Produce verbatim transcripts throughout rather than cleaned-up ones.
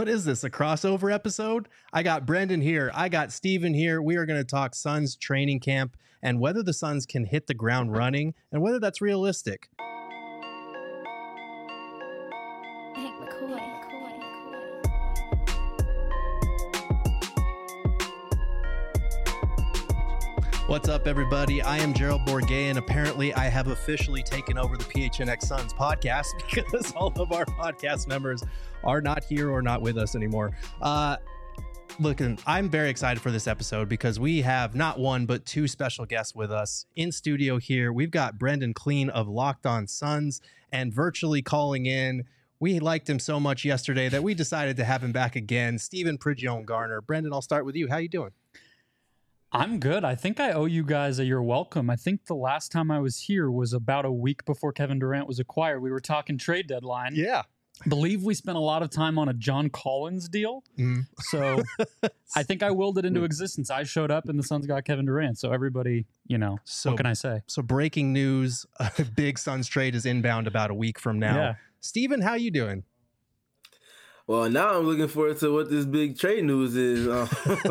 What is this, a crossover episode? I got Brendan here. I got Steven here. We are going to talk Suns training camp and whether the Suns can hit the ground running and whether that's realistic. What's up, everybody? I am Gerald Bourguet, and apparently I have officially taken over the P H N X Suns podcast because all of our podcast members are not here or not with us anymore. Uh, look, I'm very excited for this episode because we have not one, but two special guests with us in studio here. We've got Brendan Clean of Locked On Suns, and virtually calling in, we liked him so much yesterday that we decided to have him back again, Steven Prigione Garner. Brendan, I'll start with you. How you doing? I'm good. I think I owe you guys a you're welcome. I think the last time I was here was about a week before Kevin Durant was acquired. We were talking trade deadline. Yeah. I believe we spent a lot of time on a John Collins deal. Mm. So I think I willed it into existence. I showed up and the Suns got Kevin Durant. So everybody, you know, so, what can I say? So breaking news, a big Suns trade is inbound about a week from now. Yeah. Steven, how you doing? Well, now I'm looking forward to what this big trade news is. Uh,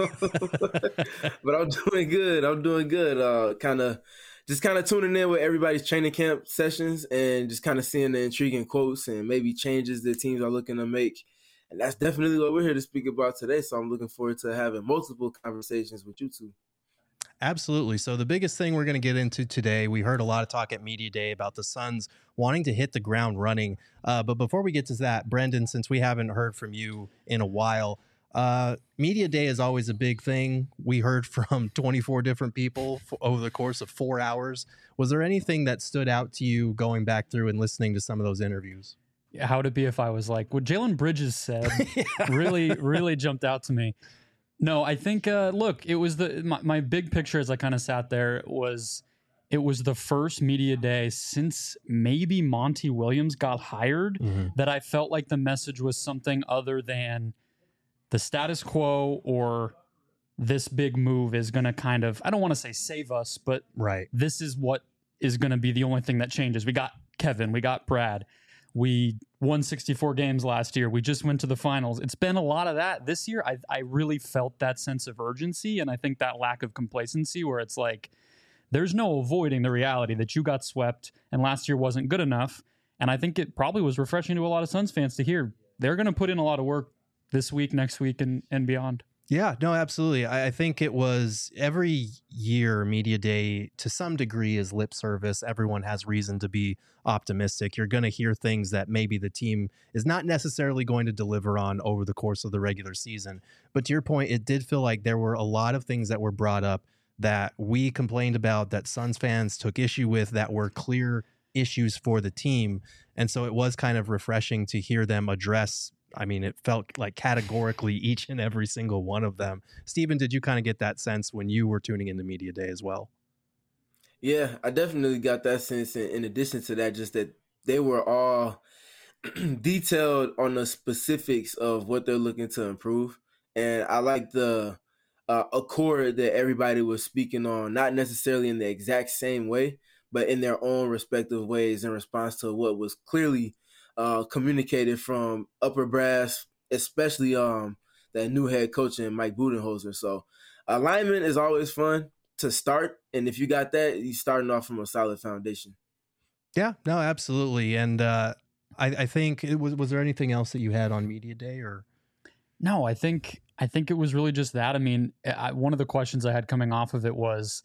but I'm doing good. I'm doing good. Uh, kind of just kind of tuning in with everybody's training camp sessions and just kind of seeing the intriguing quotes and maybe changes that teams are looking to make. And that's definitely what we're here to speak about today. So I'm looking forward to having multiple conversations with you two. Absolutely. So the biggest thing we're going to get into today, we heard a lot of talk at Media Day about the Suns wanting to hit the ground running. Uh, but before we get to that, Brendan, since we haven't heard from you in a while, uh, Media Day is always a big thing. We heard from twenty-four different people f- over the course of four hours. Was there anything that stood out to you going back through and listening to some of those interviews? How would it be if I was like, what Jalen Bridges said yeah. really, really jumped out to me. No, I think, uh, look, it was the my, my big picture as I kind of sat there was it was the first media day since maybe Monty Williams got hired mm-hmm. that I felt like the message was something other than the status quo or this big move is going to kind of, I don't want to say save us, but right. this is what is going to be the only thing that changes. We got Kevin, we got Brad. We won sixty-four games last year. We just went to the finals. It's been a lot of that. This year, I, I really felt that sense of urgency, and I think that lack of complacency where it's like, there's no avoiding the reality that you got swept, and last year wasn't good enough. And I think it probably was refreshing to a lot of Suns fans to hear they're going to put in a lot of work this week, next week, and, and beyond. Yeah, no, absolutely. I, I think it was every year Media Day to some degree is lip service. Everyone has reason to be optimistic. You're going to hear things that maybe the team is not necessarily going to deliver on over the course of the regular season. But to your point, it did feel like there were a lot of things that were brought up that we complained about, that Suns fans took issue with, that were clear issues for the team. And so it was kind of refreshing to hear them address. I mean, it felt like categorically each and every single one of them. Steven, did you kind of get that sense when you were tuning into Media Day as well? Yeah, I definitely got that sense. In, in addition to that, just that they were all detailed on the specifics of what they're looking to improve. And I like the uh, accord that everybody was speaking on, not necessarily in the exact same way, but in their own respective ways in response to what was clearly Uh, communicated from upper brass, especially um that new head coach and Mike Budenholzer. So alignment is always fun to start, and if you got that, you're starting off from a solid foundation. Yeah, no, absolutely. And uh, I, I think it was. Was there anything else that you had on Media Day, or? No, I think I think it was really just that. I mean, I, one of the questions I had coming off of it was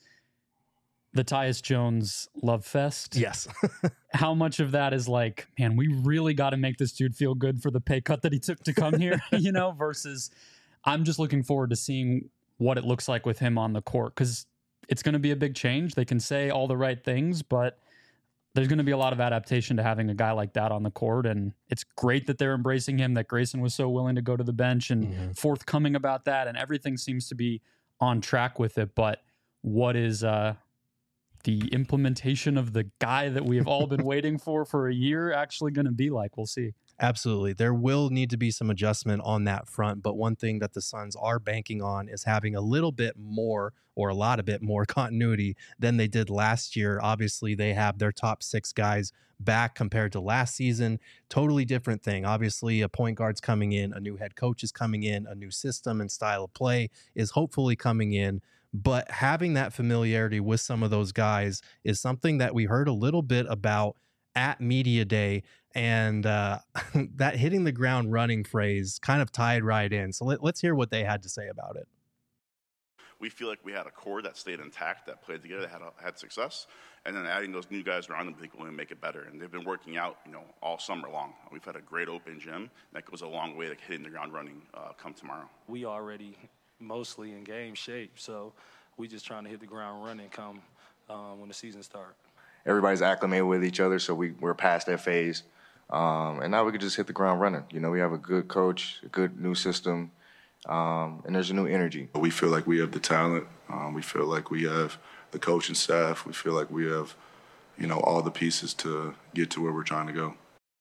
the Tyus Jones love fest. Yes. How much of that is like, man, we really got to make this dude feel good for the pay cut that he took to come here, you know, versus I'm just looking forward to seeing what it looks like with him on the court, because it's going to be a big change. They can say all the right things, but there's going to be a lot of adaptation to having a guy like that on the court. And it's great that they're embracing him, that Grayson was so willing to go to the bench and mm-hmm. forthcoming about that. And everything seems to be on track with it. But what is, uh, the implementation of the guy that we have all been waiting for for a year actually going to be like? We'll see. Absolutely. There will need to be some adjustment on that front. But one thing that the Suns are banking on is having a little bit more or a lot of bit more continuity than they did last year. Obviously, they have their top six guys back compared to last season. Totally different thing. Obviously, a point guard's coming in, a new head coach is coming in, a new system and style of play is hopefully coming in. But having that familiarity with some of those guys is something that we heard a little bit about at Media Day. And uh, that hitting the ground running phrase kind of tied right in. So let, let's hear what they had to say about it. We feel like we had a core that stayed intact, that played together, that had, had success. And then adding those new guys around them, I think will make it better. And they've been working out, you know, all summer long. We've had a great open gym. That goes a long way to hitting the ground running uh, come tomorrow. We already mostly in game shape, so we just trying to hit the ground running come um, when the season starts. Everybody's acclimated with each other, so we, we're past that phase. Um, and now we could just hit the ground running. You know, we have a good coach, a good new system, um, and there's a new energy. We feel like we have the talent. Um, we feel like we have the coaching staff. We feel like we have, you know, all the pieces to get to where we're trying to go.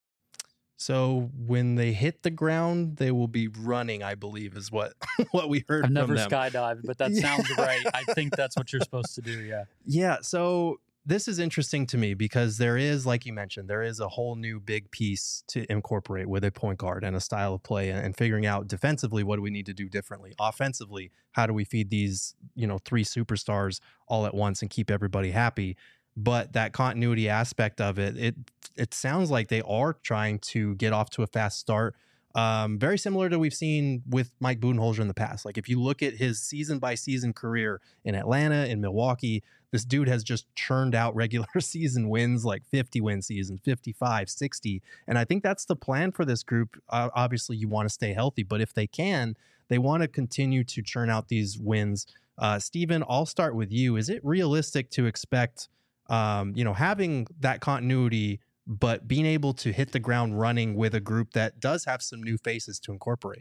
So when they hit the ground, they will be running, I believe, is what what we heard I've from never them. skydived, but that sounds right. I think that's what you're supposed to do, yeah. Yeah, so this is interesting to me because there is, like you mentioned, there is a whole new big piece to incorporate with a point guard and a style of play and, and figuring out defensively what do we need to do differently. Offensively, how do we feed these, you know, three superstars all at once and keep everybody happy? But that continuity aspect of it, it it sounds like they are trying to get off to a fast start. Um, very similar to we've seen with Mike Budenholzer in the past. Like if you look at his season by season career in Atlanta, in Milwaukee, this dude has just churned out regular season wins, like fifty win season, fifty-five, sixty. And I think that's the plan for this group. Uh, obviously you want to stay healthy, but if they can, they want to continue to churn out these wins. Uh, Steven, I'll start with you. Is it realistic to expect, um, you know, having that continuity, but being able to hit the ground running with a group that does have some new faces to incorporate?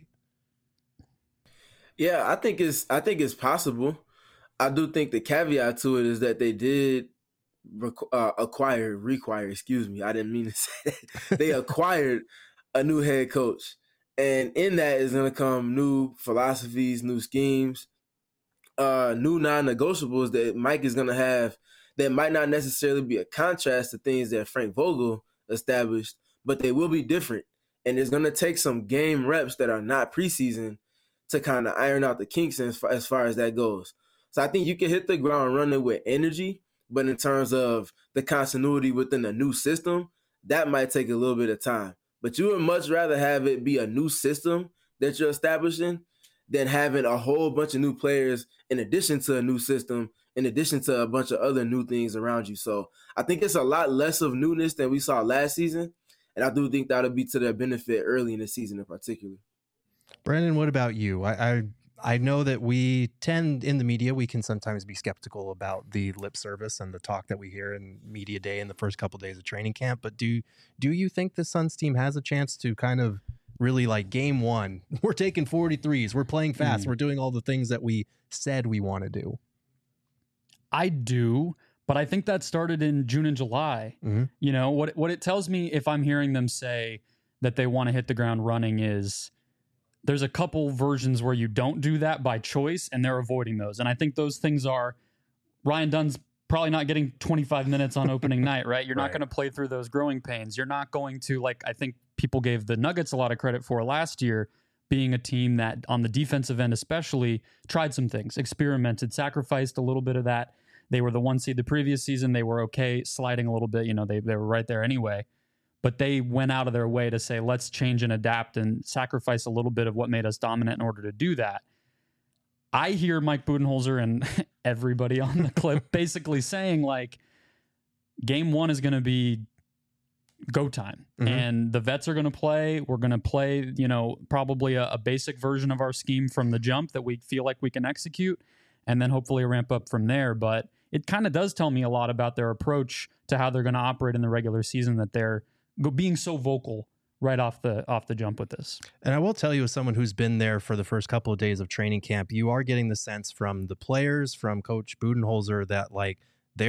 Yeah, I think it's I think it's possible. I do think the caveat to it is that they did requ- uh, acquire, require, excuse me. I didn't mean to say that. They acquired a new head coach. And in that is going to come new philosophies, new schemes, uh, new non-negotiables that Mike is going to have that might not necessarily be a contrast to things that Frank Vogel established, but they will be different. And it's going to take some game reps that are not preseason to kind of iron out the kinks as far, as far as that goes. So I think you can hit the ground running with energy, but in terms of the continuity within a new system, that might take a little bit of time. But you would much rather have it be a new system that you're establishing than having a whole bunch of new players in addition to a new system, in addition to a bunch of other new things around you. So I think it's a lot less of newness than we saw last season. And I do think that'll be to their benefit early in the season in particular. Brandon, what about you? I, I I know that we tend in the media, we can sometimes be skeptical about the lip service and the talk that we hear in media day in the first couple of days of training camp. But do do you think the Suns team has a chance to kind of really like game one? We're taking forty-threes. We're playing fast. Mm. We're doing all the things that we said we want to do. I do, but I think that started in June and July. Mm-hmm. You know, what what it tells me if I'm hearing them say that they want to hit the ground running is there's a couple versions where you don't do that by choice, and they're avoiding those. And I think those things are Ryan Dunn's probably not getting twenty-five minutes on opening night, right? You're right. Not going to play through those growing pains. You're not going to, like, I think people gave the Nuggets a lot of credit for last year, being a team that on the defensive end especially tried some things, experimented, sacrificed a little bit of that. They were the one seed the previous season. They were okay sliding a little bit. You know, they, they were right there anyway. But they went out of their way to say, let's change and adapt and sacrifice a little bit of what made us dominant in order to do that. I hear Mike Budenholzer and everybody on the clip basically saying, like, game one is going to be go time. Mm-hmm. And the vets are going to play. We're going to play, you know, probably a, a basic version of our scheme from the jump that we feel like we can execute, and then hopefully ramp up from there. But it kind of does tell me a lot about their approach to how they're going to operate in the regular season, that they're being so vocal right off the off the jump with this. And I will tell you, as someone who's been there for the first couple of days of training camp, you are getting the sense from the players, from Coach Budenholzer, that like they're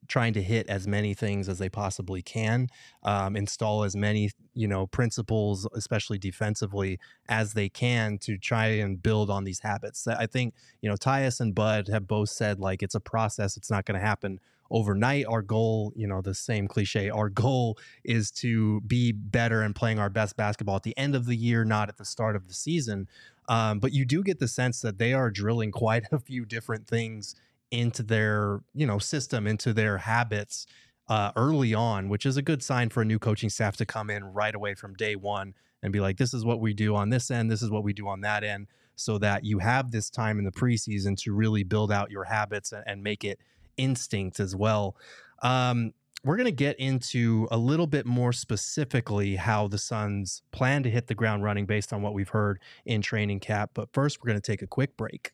trying to hit as many things as they possibly can, um, install as many, you know, principles, especially defensively, as they can to try and build on these habits. I think, you know, Tyus and Bud have both said, like, it's a process. It's not going to happen overnight. Our goal, you know, the same cliche, our goal is to be better and playing our best basketball at the end of the year, not at the start of the season. Um, but you do get the sense that they are drilling quite a few different things into their, you know, system, into their habits uh, early on, which is a good sign for a new coaching staff to come in right away from day one and be like, this is what we do on this end, this is what we do on that end, so that you have this time in the preseason to really build out your habits and, and make it instinct as well. Um, we're going to get into a little bit more specifically how the Suns plan to hit the ground running based on what we've heard in training camp. But first, we're going to take a quick break.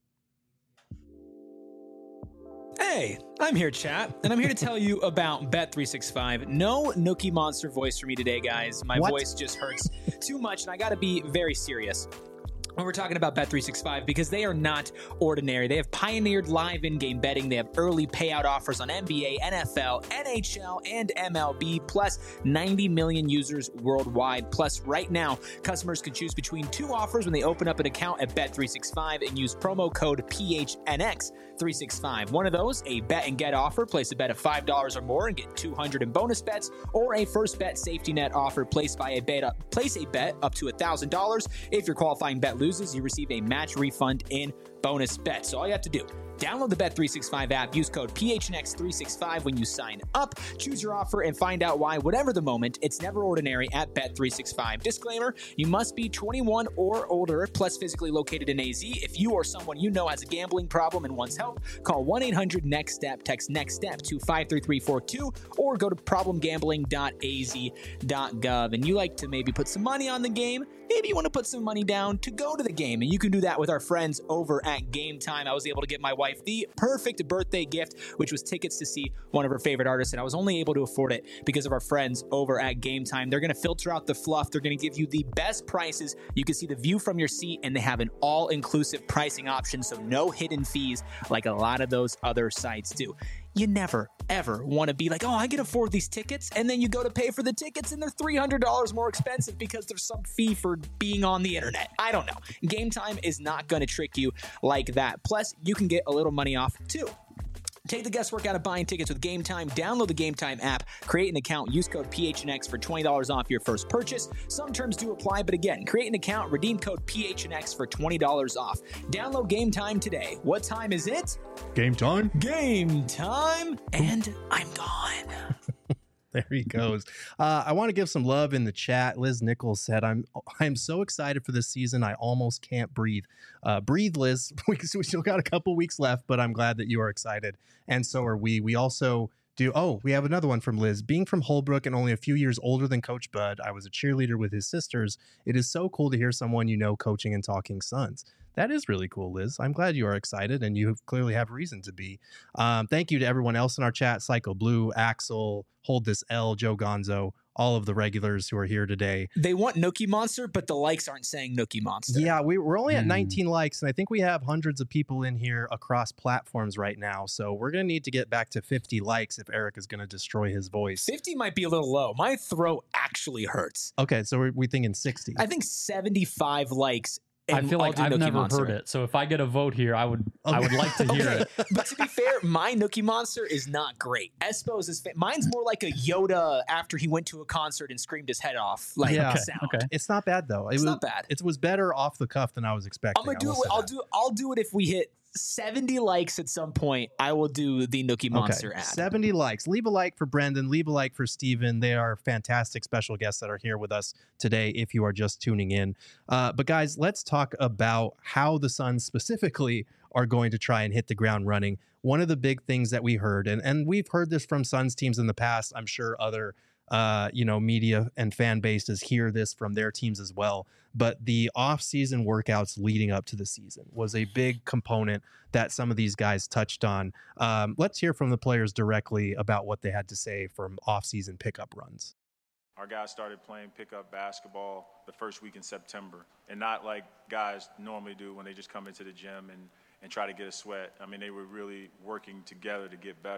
Hey, I'm here, chat, and I'm here to tell you about Bet three sixty-five. No Nookie Monster voice for me today, guys. My What? voice just hurts too much, and I got to be very serious when we're talking about Bet three sixty-five, because they are not ordinary. They have pioneered live in-game betting. They have early payout offers on N B A, N F L, N H L, and M L B, plus ninety million users worldwide. Plus, right now, customers can choose between two offers when they open up an account at Bet three sixty-five and use promo code P H N X three sixty-five. One of those, a bet and get offer. Place a bet of five dollars or more and get two hundred in bonus bets, or a first bet safety net offer. Place by a bet up, place a bet up to one thousand dollars. If your qualifying bet loses, you receive a match refund in bonus bets. So all you have to do, download the Bet three sixty-five app, use code P H N X three sixty-five when you sign up, choose your offer, and find out why, whatever the moment, it's never ordinary at Bet three sixty-five. Disclaimer, you must be twenty-one or older, plus physically located in A Z. If you or someone you know has a gambling problem and wants help, call one eight hundred next step, text NEXTSTEP to five three three four two, or go to problem gambling dot a z dot gov. And you like to maybe put some money on the game, maybe you want to put some money down to go to the game, and you can do that with our friends over at Game Time. I was able to get my wife the perfect birthday gift, which was tickets to see one of her favorite artists, and I was only able to afford it because of our friends over at Game Time. They're going to filter out the fluff. They're going to give you the best prices. You can see the view from your seat, and they have an all-inclusive pricing option, so no hidden fees like a lot of those other sites do. You never, ever want to be like, oh, I can afford these tickets, and then you go to pay for the tickets, and they're three hundred dollars more expensive because there's some fee for being on the internet. I don't know. Game Time is not going to trick you like that. Plus, you can get a little money off, too. Take the guesswork out of buying tickets with Game Time. Download the Game Time app, create an account, use code P H N X for twenty dollars off your first purchase. Some terms do apply, but again, create an account, redeem code P H N X for twenty dollars off. Download Game Time today. What time is it? Game time. Game time, and I'm gone. There he goes. Uh, I want to give some love in the chat. Liz Nichols said, I'm I'm so excited for this season. I almost can't breathe. Uh, breathe, Liz. We, we still got a couple weeks left, but I'm glad that you are excited. And so are we. We also do. Oh, we have another one from Liz. Being from Holbrook and only a few years older than Coach Bud, I was a cheerleader with his sisters. It is so cool to hear someone you know coaching and talking Suns. That is really cool, Liz. I'm glad you are excited, and you clearly have reason to be. Um, thank you to everyone else in our chat, Psycho Blue, Axel, Hold This L, Joe Gonzo, all of the regulars who are here today. They want Nookie Monster, but the likes aren't saying Nookie Monster. Yeah, we, we're only at Mm. nineteen likes, and I think we have hundreds of people in here across platforms right now, so we're going to need to get back to fifty likes if Eric is going to destroy his voice. fifty might be a little low. My throat actually hurts. Okay, so we're we thinking sixty. I think seventy-five likes. I and feel I'll like do I've Nookie never Monster. heard it. So if I get a vote here, I would I would like to hear Okay, it. but to be fair, my Nookie Monster is not great. Espo's is fa- mine's more like a Yoda after he went to a concert and screamed his head off. Like Yeah. Okay, sound. okay. It's not bad, though. It It's was, not bad. It was better off the cuff than I was expecting. I'm gonna I do will it. say I'll that. do. I'll do it if we hit seventy likes at some point. I will do the Nookie Monster okay. ad. seventy likes. Leave a like for Brendan. Leave a like for Steven. They are fantastic special guests that are here with us today if you are just tuning in. Uh, but guys, let's talk about how the Suns specifically are going to try and hit the ground running. One of the big things that we heard, and, and we've heard this from Suns teams in the past, I'm sure other uh, you know, media and fan bases hear this from their teams as well. But the off-season workouts leading up to the season was a big component that some of these guys touched on. Um, let's hear from the players directly about what they had to say from off-season pickup runs. Our guys started playing pickup basketball the first week in September, and not like guys normally do when they just come into the gym and, and try to get a sweat. I mean, they were really working together to get better.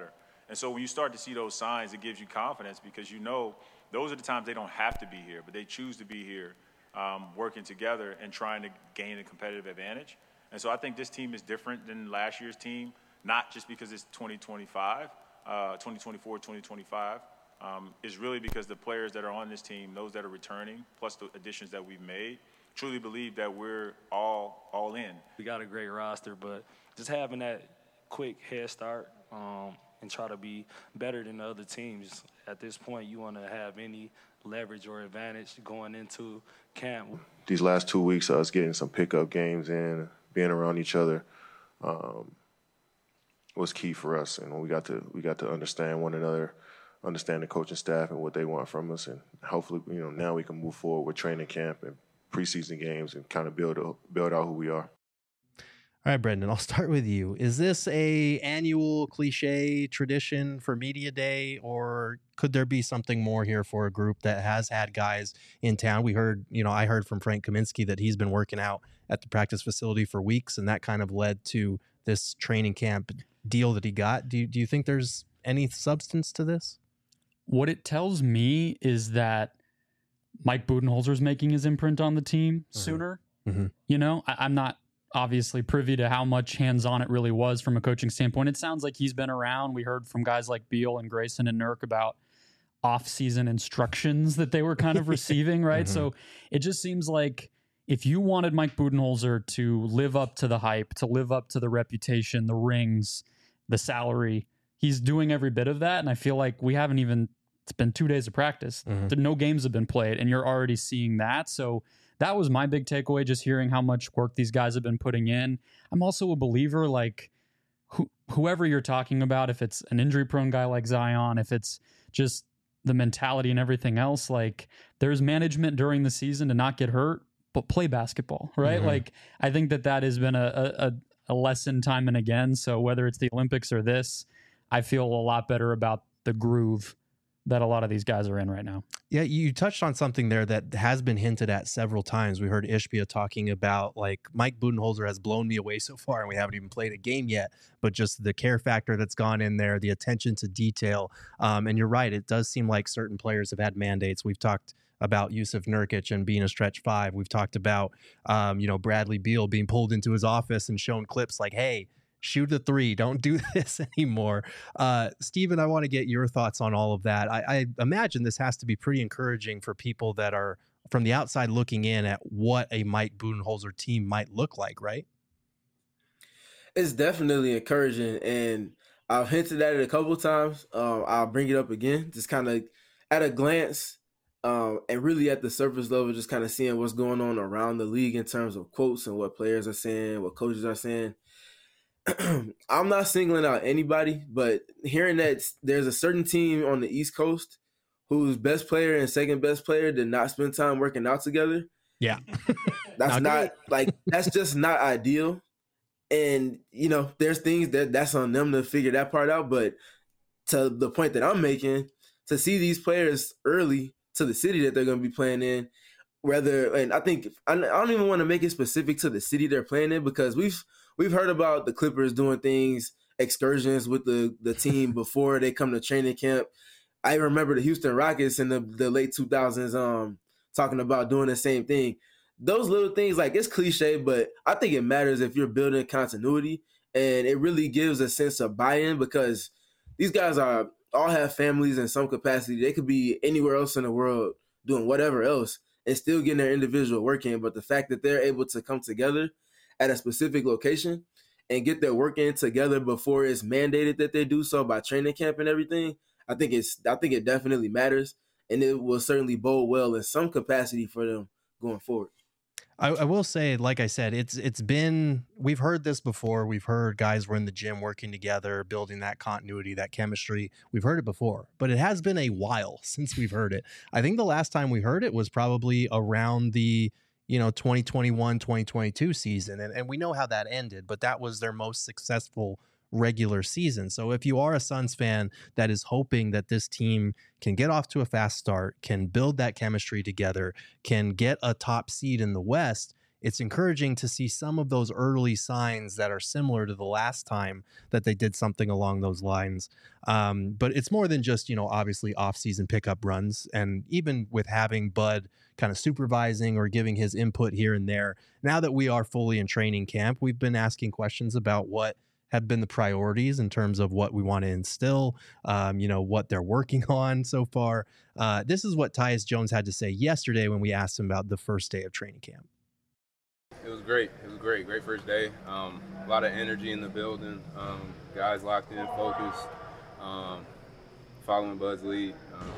And so when you start to see those signs, it gives you confidence because you know those are the times they don't have to be here, but they choose to be here um, working together and trying to gain a competitive advantage. And so I think this team is different than last year's team, not just because it's twenty twenty-five, uh, twenty twenty-four, twenty twenty-five. Um, is really because the players that are on this team, those that are returning, plus the additions that we've made, truly believe that we're all all in. We got a great roster, but just having that quick head start um, and try to be better than the other teams. At this point, you want to have any leverage or advantage going into camp. These last two weeks of us getting some pickup games in, being around each other, um, was key for us, and we got to we got to understand one another, understand the coaching staff and what they want from us, and hopefully, you know, now we can move forward with training camp and preseason games and kind of build build out who we are. All right, Brendan, I'll start with you. Is this a annual cliche tradition for Media Day, or could there be something more here for a group that has had guys in town? We heard, you know, I heard from Frank Kaminsky that he's been working out at the practice facility for weeks, and that kind of led to this training camp deal that he got. Do you, do you think there's any substance to this? What it tells me is that Mike Budenholzer's making his imprint on the team Mm-hmm. sooner. Mm-hmm. You know, I, I'm not obviously privy to how much hands-on it really was from a coaching standpoint. It sounds like he's been around. We heard from guys like Beal and Grayson and Nurk about off-season instructions that they were kind of receiving, right? Mm-hmm. So it just seems like if you wanted Mike Budenholzer to live up to the hype, to live up to the reputation, the rings, the salary, he's doing every bit of that. And I feel like we haven't even, it's been two days of practice. Mm-hmm. No games have been played, and you're already seeing that. So that was my big takeaway, just hearing how much work these guys have been putting in. I'm also a believer, like who, whoever you're talking about, if it's an injury-prone guy like Zion, if it's just the mentality and everything else, like there's management during the season to not get hurt, but play basketball, right? Mm-hmm. Like I think that that has been a, a, a lesson time and again. So whether it's the Olympics or this, I feel a lot better about the groove that a lot of these guys are in right now. Yeah, you touched on something there that has been hinted at several times. We heard Ishbia talking about, like, Mike Budenholzer has blown me away so far, and we haven't even played a game yet, but just the care factor that's gone in there, the attention to detail. Um, and you're right, it does seem like certain players have had mandates. We've talked about Yusuf Nurkic and being a stretch five. We've talked about, um, you know, Bradley Beal being pulled into his office and shown clips like, hey, shoot a three, don't do this anymore. Uh, Steven, I want to get your thoughts on all of that. I, I imagine this has to be pretty encouraging for people that are from the outside looking in at what a Mike Budenholzer team might look like, right? It's definitely encouraging, and I've hinted at it a couple of times. Um, I'll bring it up again, just kind of at a glance, um, and really at the surface level, just kind of seeing what's going on around the league in terms of quotes and what players are saying, what coaches are saying. I'm not singling out anybody, but hearing that there's a certain team on the East Coast whose best player and second best player did not spend time working out together. Yeah. That's not like, that's just not ideal. And, you know, there's things that that's on them to figure that part out. But to the point that I'm making, to see these players early to the city that they're going to be playing in, whether, and I think, I don't even want to make it specific to the city they're playing in, because we've, We've heard about the Clippers doing things, excursions with the, the team before they come to training camp. I remember the Houston Rockets in the, the late two thousands um, talking about doing the same thing. Those little things, like, it's cliche, but I think it matters if you're building continuity, and it really gives a sense of buy-in, because these guys are all have families in some capacity. They could be anywhere else in the world doing whatever else and still getting their individual work in, but the fact that they're able to come together at a specific location and get their work in together before it's mandated that they do so by training camp and everything, I think it's I think it definitely matters, and it will certainly bode well in some capacity for them going forward. I, I will say, like I said, it's it's been, we've heard this before. We've heard guys were in the gym working together, building that continuity, that chemistry. We've heard it before, but it has been a while since we've heard it. I think the last time we heard it was probably around the you know, twenty twenty-one, twenty twenty-two season. And, and we know how that ended, but that was their most successful regular season. So if you are a Suns fan that is hoping that this team can get off to a fast start, can build that chemistry together, can get a top seed in the West, it's encouraging to see some of those early signs that are similar to the last time that they did something along those lines. Um, but it's more than just, you know, obviously off-season pickup runs. And even with having Bud kind of supervising or giving his input here and there, now that we are fully in training camp, we've been asking questions about what have been the priorities in terms of what we want to instill, um, you know, what they're working on so far. Uh, this is what Tyus Jones had to say yesterday when we asked him about the first day of training camp. It was great. It was great. Great first day. Um, a lot of energy in the building. Um, guys locked in, focused, um, following Bud's lead.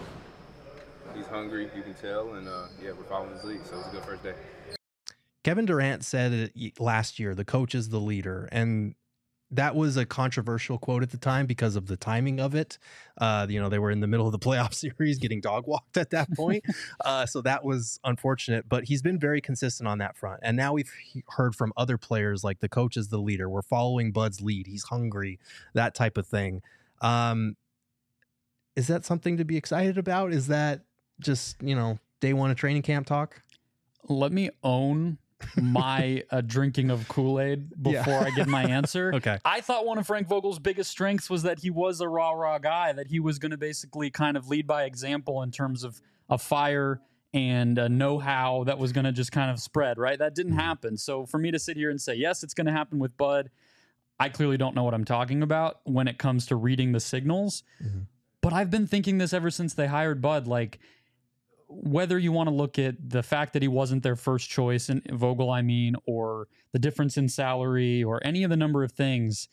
Um, he's hungry, you can tell, and uh, yeah, we're following his lead. So it was a good first day. Kevin Durant said it last year, the coach is the leader, and that was a controversial quote at the time because of the timing of it. Uh, you know, they were in the middle of the playoff series getting dog walked at that point. uh, so that was unfortunate, but he's been very consistent on that front. And now we've heard from other players like the coach is the leader. We're following Bud's lead. He's hungry, that type of thing. Um, is that something to be excited about? Is that just, you know, day one of training camp talk? Let me own my uh, drinking of Kool-Aid before Yeah. I give my answer. Okay. I thought one of Frank Vogel's biggest strengths was that he was a rah-rah guy, that he was going to basically kind of lead by example in terms of a fire and a know-how that was going to just kind of spread, right? That didn't happen. So for me to sit here and say, yes, it's going to happen with Bud, I clearly don't know what I'm talking about when it comes to reading the signals. Mm-hmm. But I've been thinking this ever since they hired Bud, like, whether you want to look at the fact that he wasn't their first choice in Vogel, I mean, or the difference in salary or any of the number of things,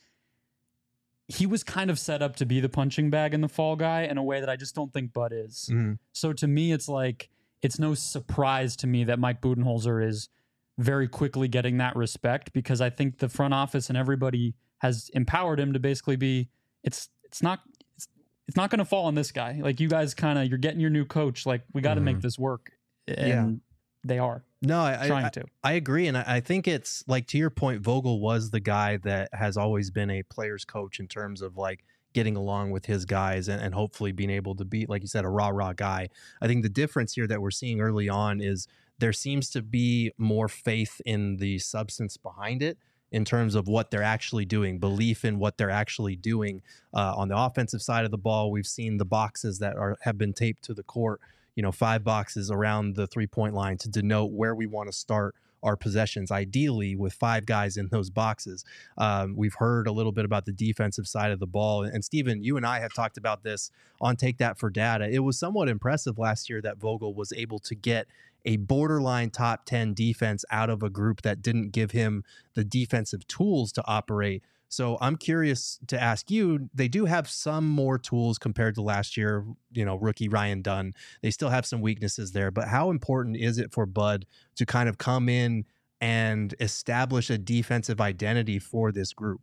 he was kind of set up to be the punching bag and the fall guy in a way that I just don't think Bud is. Mm-hmm. So to me, it's like, it's no surprise to me that Mike Budenholzer is very quickly getting that respect, because I think the front office and everybody has empowered him to basically be, it's, it's not, it's not going to fall on this guy. Like, you guys kind of, you're getting your new coach. Like, we got to Mhm. make this work. And Yeah. they are No, I, trying I, to. I agree. And I, I think it's like, to your point, Vogel was the guy that has always been a player's coach in terms of like getting along with his guys and, and hopefully being able to be, like you said, a rah rah guy. I think the difference here that we're seeing early on is there seems to be more faith in the substance behind it, in terms of what they're actually doing, belief in what they're actually doing. Uh, on the offensive side of the ball, we've seen the boxes that are have been taped to the court, you know, five boxes around the three-point line to denote where we want to start our possessions, ideally with five guys in those boxes. Um, we've heard a little bit about the defensive side of the ball. And Steven, you and I have talked about this on Take That for Data. It was somewhat impressive last year that Vogel was able to get a borderline top ten defense out of a group that didn't give him the defensive tools to operate. So I'm curious to ask you, they do have some more tools compared to last year, you know, rookie Ryan Dunn. They still have some weaknesses there, but how important is it for Bud to kind of come in and establish a defensive identity for this group?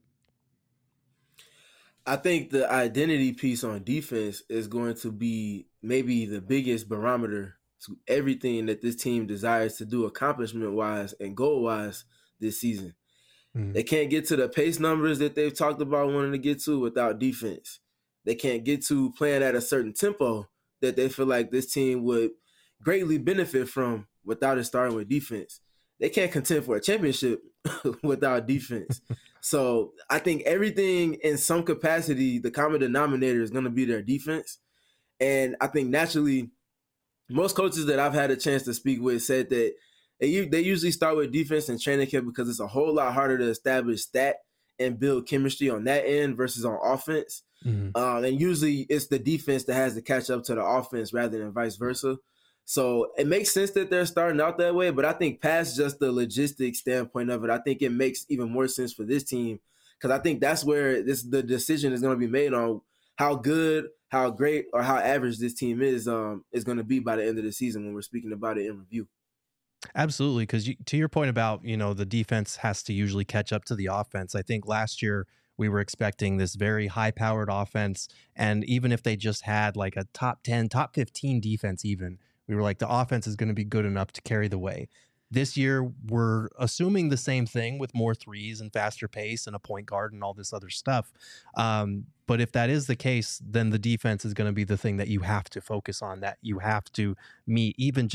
I think the identity piece on defense is going to be maybe the biggest barometer to everything that this team desires to do accomplishment-wise and goal-wise this season. Mm-hmm. They can't get to the pace numbers that they've talked about wanting to get to without defense. They can't get to playing at a certain tempo that they feel like this team would greatly benefit from without it starting with defense. They can't contend for a championship without defense. So I think everything in some capacity, the common denominator is going to be their defense. And I think naturally, most coaches that I've had a chance to speak with said that they, they usually start with defense and training camp because it's a whole lot harder to establish stat and build chemistry on that end versus on offense. Mm-hmm. Um, and usually it's the defense that has to catch up to the offense rather than vice versa. So it makes sense that they're starting out that way, but I think past just the logistics standpoint of it, I think it makes even more sense for this team, because I think that's where this the decision is going to be made on how good, how great, or how average this team is um, is going to be by the end of the season when we're speaking about it in review. Absolutely, because you, to your point about, you know, the defense has to usually catch up to the offense. I think last year we were expecting this very high-powered offense, and even if they just had like a top ten, top fifteen defense even, we were like, the offense is going to be good enough to carry the way. This year, we're assuming the same thing with more threes and faster pace and a point guard and all this other stuff. Um, but if that is the case, then the defense is going to be the thing that you have to focus on, that you have to meet even just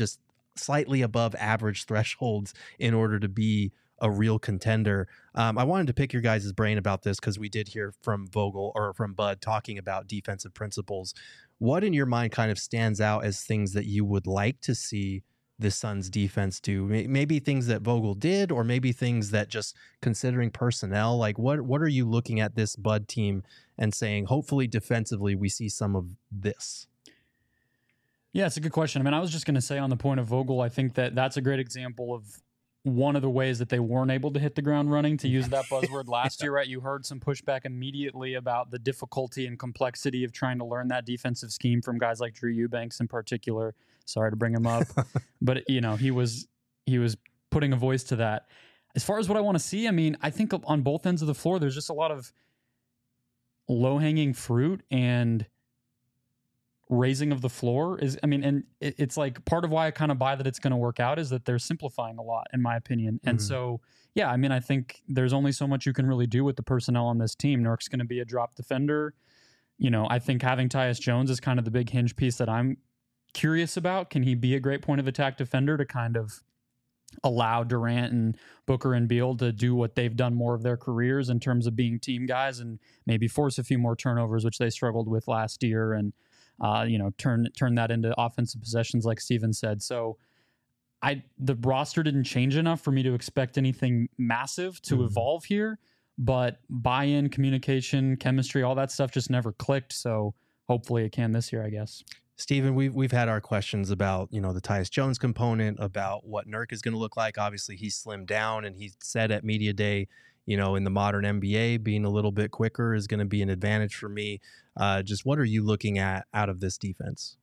slightly above average thresholds in order to be a real contender. Um, I wanted to pick your guys' brain about this because we did hear from Vogel or from Bud talking about defensive principles. What in your mind kind of stands out as things that you would like to see the Suns defense do? Maybe things that Vogel did, or maybe things that, just considering personnel, like what, what are you looking at this Bud team and saying, hopefully defensively we see some of this? Yeah, it's a good question. I mean, I was just going to say on the point of Vogel, I think that that's a great example of one of the ways that they weren't able to hit the ground running, to use that buzzword last yeah. year, right? You heard some pushback immediately about the difficulty and complexity of trying to learn that defensive scheme from guys like Drew Eubanks in particular. Sorry to bring him up, but you know, he was, he was putting a voice to that. As far as what I want to see, I mean, I think on both ends of the floor, there's just a lot of low hanging fruit and raising of the floor is, I mean, and it, it's like part of why I kind of buy that it's going to work out is that they're simplifying a lot, in my opinion. And mm-hmm. so, yeah, I mean, I think there's only so much you can really do with the personnel on this team. Nurk's going to be a drop defender. You know, I think having Tyus Jones is kind of the big hinge piece that I'm curious about. Can he be a great point of attack defender to kind of allow Durant and Booker and Beal to do what they've done more of their careers in terms of being team guys, and maybe force a few more turnovers, which they struggled with last year, and Uh, you know, turn turn that into offensive possessions, like Steven said. So, I the roster didn't change enough for me to expect anything massive to mm-hmm. evolve here. But buy-in, communication, chemistry, all that stuff just never clicked. So hopefully it can this year, I guess. Steven, we've we've had our questions about, you know, the Tyus Jones component, about what Nurk is going to look like. Obviously, he's slimmed down, and he said at Media Day, you know, in the modern N B A, being a little bit quicker is going to be an advantage for me. Uh, just what are you looking at out of this defense?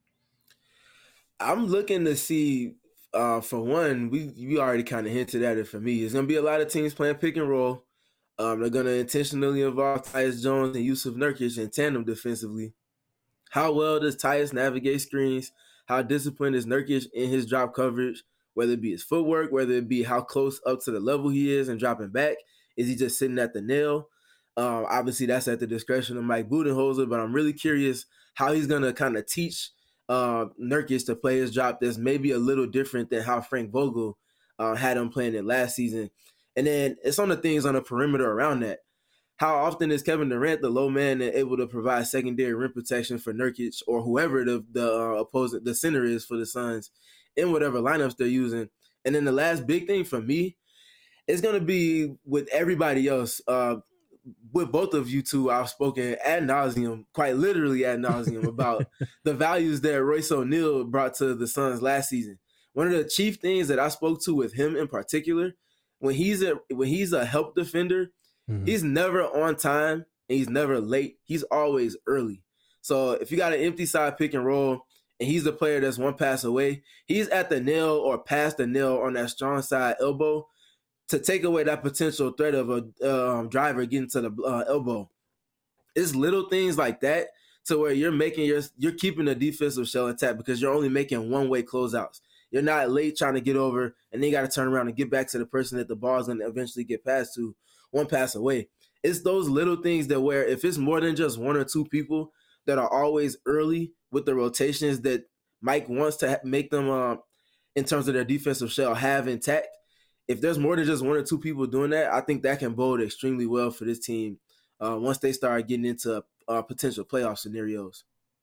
I'm looking to see, uh, for one, we we already kind of hinted at it for me. There's going to be a lot of teams playing pick and roll. Um, they're going to intentionally involve Tyus Jones and Yusuf Nurkic in tandem defensively. How well does Tyus navigate screens? How disciplined is Nurkic in his drop coverage? Whether it be his footwork, whether it be how close up to the level he is and dropping back. Is he just sitting at the nail? Um, obviously, that's at the discretion of Mike Budenholzer, but I'm really curious how he's going to kind of teach uh, Nurkic to play his drop that's maybe a little different than how Frank Vogel uh, had him playing it last season. And then it's on the things on the perimeter around that. How often is Kevin Durant, the low man, able to provide secondary rim protection for Nurkic or whoever the, the uh, opposing the center is for the Suns in whatever lineups they're using? And then the last big thing for me is going to be with everybody else. Uh, with both of you two, I've spoken ad nauseum, quite literally ad nauseum, about the values that Royce O'Neal brought to the Suns last season. One of the chief things that I spoke to with him in particular, when he's a when he's a help defender, mm-hmm. he's never on time and he's never late. He's always early. So if you got an empty side pick and roll and he's the player that's one pass away, he's at the nail or past the nail on that strong side elbow to take away that potential threat of a um, driver getting to the uh, elbow. It's little things like that to where you're making your you're keeping the defensive shell intact because you're only making one-way closeouts. You're not late trying to get over, and then you got to turn around and get back to the person that the ball's going to eventually get passed to one pass away. It's those little things that where if it's more than just one or two people that are always early with the rotations that Mike wants to ha- make them, uh, in terms of their defensive shell, have intact, if there's more than just one or two people doing that, I think that can bode extremely well for this team uh, once they start getting into uh, potential playoff scenarios.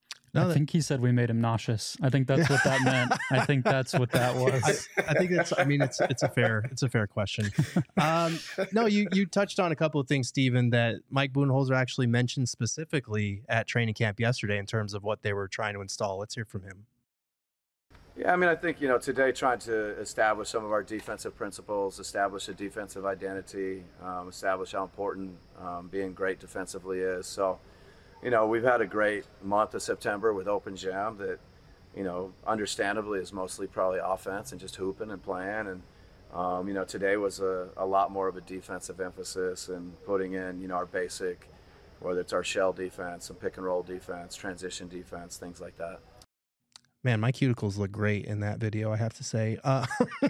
I think he said we made him nauseous. I think that's what that meant. I think that's what that was. I, I think that's, I mean, it's it's a fair, it's a fair question. Um, no, you you touched on a couple of things, Steven, that Mike Budenholzer actually mentioned specifically at training camp yesterday in terms of what they were trying to install. Let's hear from him. Yeah, I mean, I think, you know, today trying to establish some of our defensive principles, establish a defensive identity, um, establish how important um, being great defensively is. So, you know, we've had a great month of September with Open Gym that, you know, understandably is mostly probably offense and just hooping and playing. And, um, you know, today was a, a lot more of a defensive emphasis and putting in, you know, our basic, whether it's our shell defense, some pick and roll defense, transition defense, things like that. Man, my cuticles look great in that video, I have to say. Uh,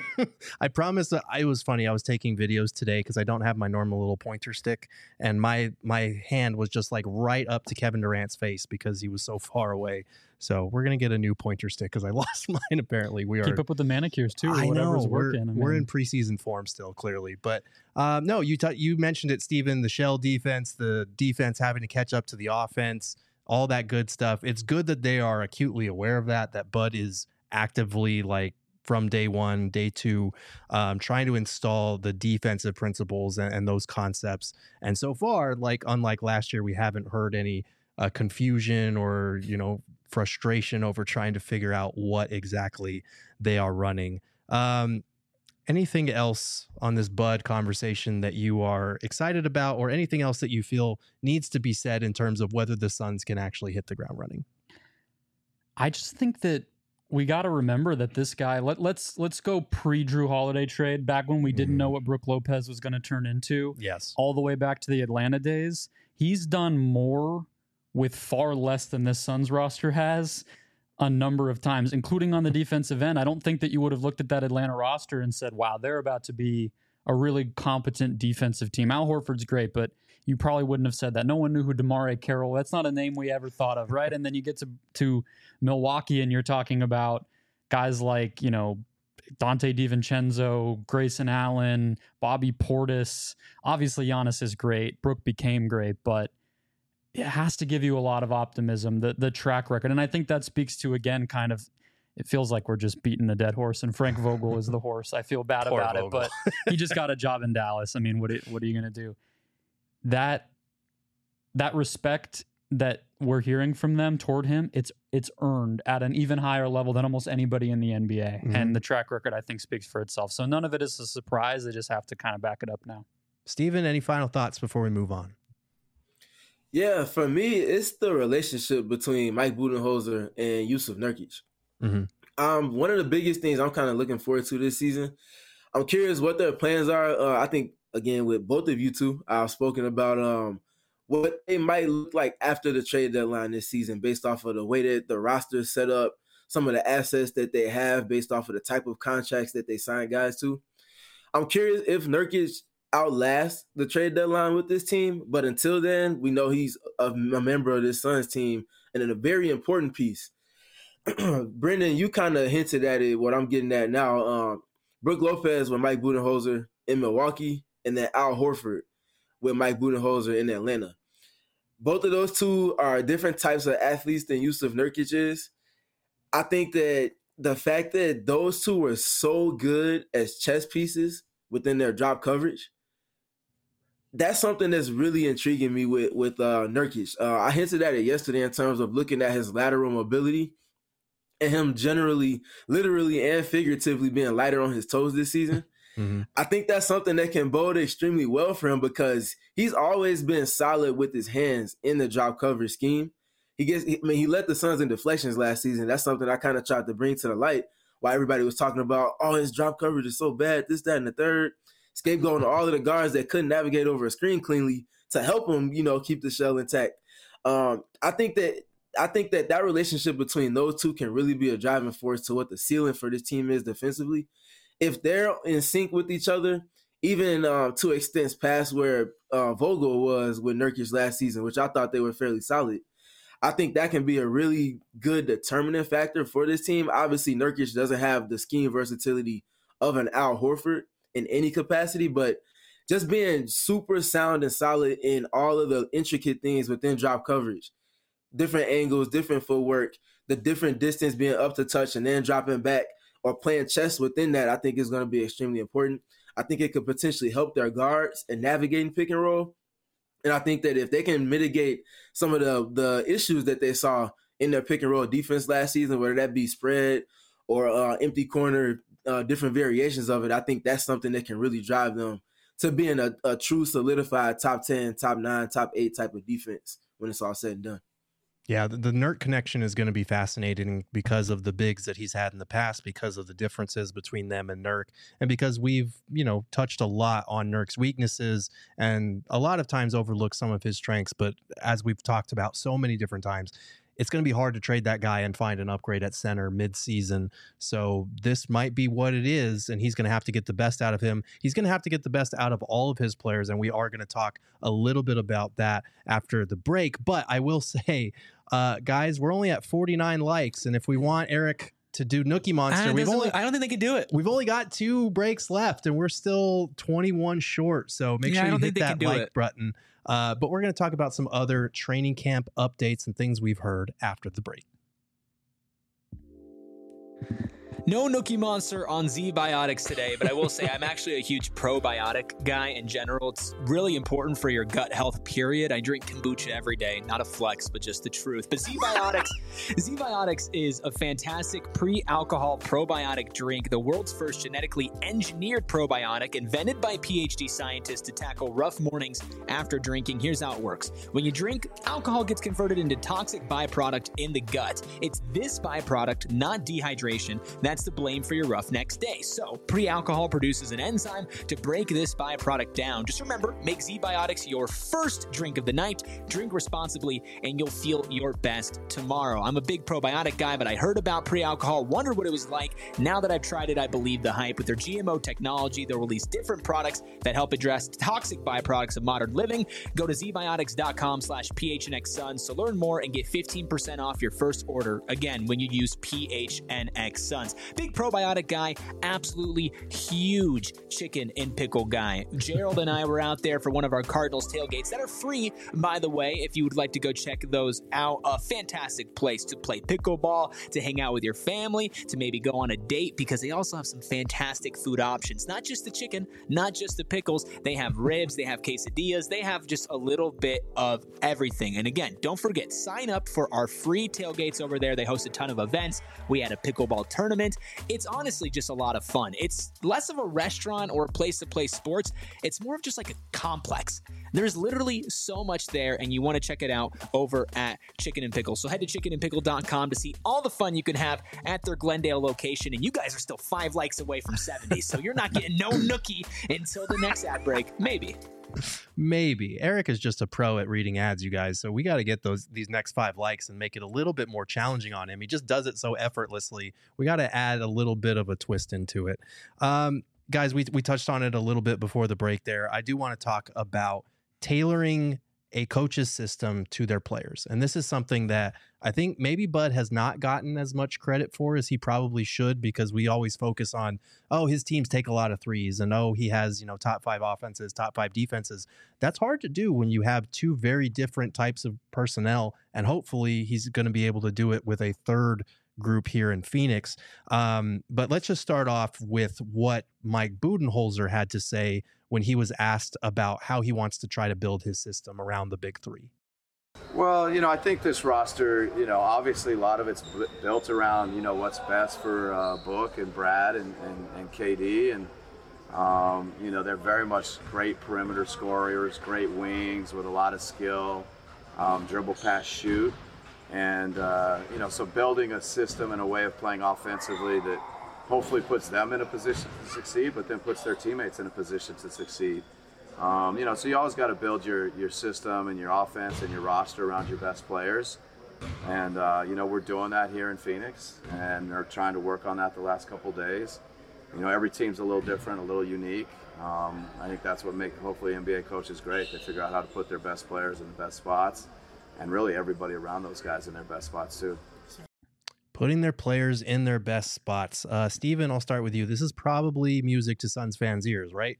I promise that I, it was funny. I was taking videos today because I don't have my normal little pointer stick. And my my hand was just like right up to Kevin Durant's face because he was so far away. So we're going to get a new pointer stick because I lost mine. Apparently we are. Keep up with the manicures too. Or I whatever's know we're, working. I we're mean. in preseason form still, clearly. But um, no, you t- you mentioned it, Steven, the shell defense, the defense having to catch up to the offense, all that good stuff. It's good that they are acutely aware of that, that Bud is actively, like, from day one, day two, um, trying to install the defensive principles and, and those concepts. And so far, like, unlike last year, we haven't heard any uh, confusion or, you know, frustration over trying to figure out what exactly they are running. Um, anything else on this Bud conversation that you are excited about, or anything else that you feel needs to be said in terms of whether the Suns can actually hit the ground running? I just think that we got to remember that this guy, let, let's let's go pre-Drew Holiday trade, back when we didn't mm-hmm. know what Brook Lopez was going to turn into. Yes. All the way back to the Atlanta days. He's done more with far less than this Suns roster has a number of times, including on the defensive end. I don't think that you would have looked at that Atlanta roster and said, wow, they're about to be a really competent defensive team. Al Horford's great, but you probably wouldn't have said that. No one knew who DeMar Carroll, that's not a name we ever thought of, right? And then you get to, to Milwaukee and you're talking about guys like, you know, Dante DiVincenzo, Grayson Allen, Bobby Portis. Obviously, Giannis is great. Brook became great, but it has to give you a lot of optimism, the the track record. And I think that speaks to, again, kind of, it feels like we're just beating a dead horse and Frank Vogel is the horse. I feel bad Poor about Vogel. it, but he just got a job in Dallas. I mean, what what are you going to do? That that respect that we're hearing from them toward him, it's it's earned at an even higher level than almost anybody in the N B A. Mm-hmm. And the track record, I think, speaks for itself. So none of it is a surprise. They just have to kind of back it up now. Steven, any final thoughts before we move on? Yeah, for me, it's the relationship between Mike Budenholzer and Jusuf Nurkic. Mm-hmm. Um, one of the biggest things I'm kind of looking forward to this season, I'm curious what their plans are. Uh, I think, again, with both of you two, I've spoken about um, what they might look like after the trade deadline this season based off of the way that the roster is set up, some of the assets that they have based off of the type of contracts that they sign guys to. I'm curious if Nurkic outlast the trade deadline with this team, but until then, we know he's a, a member of this Suns team and in a very important piece. Brendan, you kind of hinted at it, what I'm getting at now. Um, Brook Lopez with Mike Budenholzer in Milwaukee, and then Al Horford with Mike Budenholzer in Atlanta. Both of those two are different types of athletes than Jusuf Nurkic is. I think that the fact that those two were so good as chess pieces within their drop coverage, that's something that's really intriguing me with with uh, Nurkic. Uh, I hinted at it yesterday in terms of looking at his lateral mobility and him generally, literally and figuratively being lighter on his toes this season. Mm-hmm. I think that's something that can bode extremely well for him because he's always been solid with his hands in the drop coverage scheme. He gets, I mean, he led the Suns in deflections last season. That's something I kind of tried to bring to the light while everybody was talking about, oh, his drop coverage is so bad, this, that, and the third. Scapegoating to all of the guards that couldn't navigate over a screen cleanly to help him, you know, keep the shell intact. Um, I think that I think that that relationship between those two can really be a driving force to what the ceiling for this team is defensively. If they're in sync with each other, even uh, to extents past where uh, Vogel was with Nurkic last season, which I thought they were fairly solid, I think that can be a really good determining factor for this team. Obviously, Nurkic doesn't have the scheme versatility of an Al Horford in any capacity, but just being super sound and solid in all of the intricate things within drop coverage, different angles, different footwork, the different distance being up to touch and then dropping back or playing chess within that, I think is going to be extremely important. I think it could potentially help their guards in navigating pick and roll. And I think that if they can mitigate some of the, the issues that they saw in their pick and roll defense last season, whether that be spread or uh, empty corner, uh, different variations of it, I think that's something that can really drive them to being a, a true solidified top ten, top nine, top eight type of defense when it's all said and done. Yeah, the, the Nurk connection is going to be fascinating because of the bigs that he's had in the past, because of the differences between them and Nurk, and because we've, you know, touched a lot on Nurk's weaknesses and a lot of times overlooked some of his strengths. But as we've talked about so many different times, it's going to be hard to trade that guy and find an upgrade at center mid-season. So this might be what it is, and he's going to have to get the best out of him. He's going to have to get the best out of all of his players, and we are going to talk a little bit about that after the break. But I will say, uh, guys, we're only at forty-nine likes, and if we want Eric to do Nookie Monster, we've only I don't think they can do it. We've only got two breaks left, and we're still twenty-one short. So make Yeah, sure I you don't hit think they that can do like it. button. Uh, but we're going to talk about some other training camp updates and things we've heard after the break. No Nookie Monster on Z-Biotics today, but I will say I'm actually a huge probiotic guy in general. It's really important for your gut health, period. I drink kombucha every day, not a flex, but just the truth. But Z-Biotics, Z-Biotics is a fantastic pre-alcohol probiotic drink, the world's first genetically engineered probiotic invented by PhD scientists to tackle rough mornings after drinking. Here's how it works. When you drink, alcohol gets converted into toxic byproduct in the gut. It's this byproduct, not dehydration, that's the blame for your rough next day. So, pre-alcohol produces an enzyme to break this byproduct down. Just remember, make Z-Biotics your first drink of the night. Drink responsibly, and you'll feel your best tomorrow. I'm a big probiotic guy, but I heard about pre-alcohol, wondered what it was like. Now that I've tried it, I believe the hype. With their G M O technology, they'll release different products that help address toxic byproducts of modern living. Go to zbiotics.com slash PHNXSuns to learn more and get fifteen percent off your first order. Again, when you use PHNXSuns. Big probiotic guy, absolutely huge chicken and pickle guy. Gerald and I were out there for one of our Cardinals tailgates that are free, by the way, if you would like to go check those out. A fantastic place to play pickleball, to hang out with your family, to maybe go on a date, because they also have some fantastic food options. Not just the chicken, not just the pickles. They have ribs, they have quesadillas, they have just a little bit of everything. And again, don't forget, sign up for our free tailgates over there. They host a ton of events. We had a pickleball tournament. It's honestly just a lot of fun. It's less of a restaurant or a place to play sports. It's more of just like a complex. There's literally so much there, and you want to check it out over at Chicken and Pickle. So head to chicken and pickle dot com to see all the fun you can have at their Glendale location. And you guys are still five likes away from seventy, so you're not getting no nookie until the next ad break. Maybe. Maybe. Eric is just a pro at reading ads, you guys. So we got to get those these next five likes and make it a little bit more challenging on him. He just does it so effortlessly. We got to add a little bit of a twist into it. Um, guys, we, we touched on it a little bit before the break there. I do want to talk about tailoring a coach's system to their players. And this is something that I think maybe Bud has not gotten as much credit for as he probably should, because we always focus on, oh, his teams take a lot of threes, and oh, he has, you know, top five offenses, top five defenses. That's hard to do when you have two very different types of personnel, and hopefully he's going to be able to do it with a third group here in Phoenix. Um, but let's just start off with what Mike Budenholzer had to say when he was asked about how he wants to try to build his system around the big three. Well, you know, I think this roster, you know, obviously a lot of it's b- built around, you know, what's best for uh, Book and Brad and, and, and K D. And, um, you know, they're very much great perimeter scorers, great wings with a lot of skill, um, dribble, pass, shoot. And, uh, you know, so building a system and a way of playing offensively that hopefully puts them in a position to succeed, but then puts their teammates in a position to succeed. Um, you know, so you always got to build your, your system and your offense and your roster around your best players. And, uh, you know, we're doing that here in Phoenix, and they're trying to work on that the last couple of days. You know, every team's a little different, a little unique. Um, I think that's what makes, hopefully, N B A coaches great. They figure out how to put their best players in the best spots, and really everybody around those guys in their best spots, too. Putting their players in their best spots. Uh, Steven, I'll start with you. This is probably music to Suns fans' ears, right?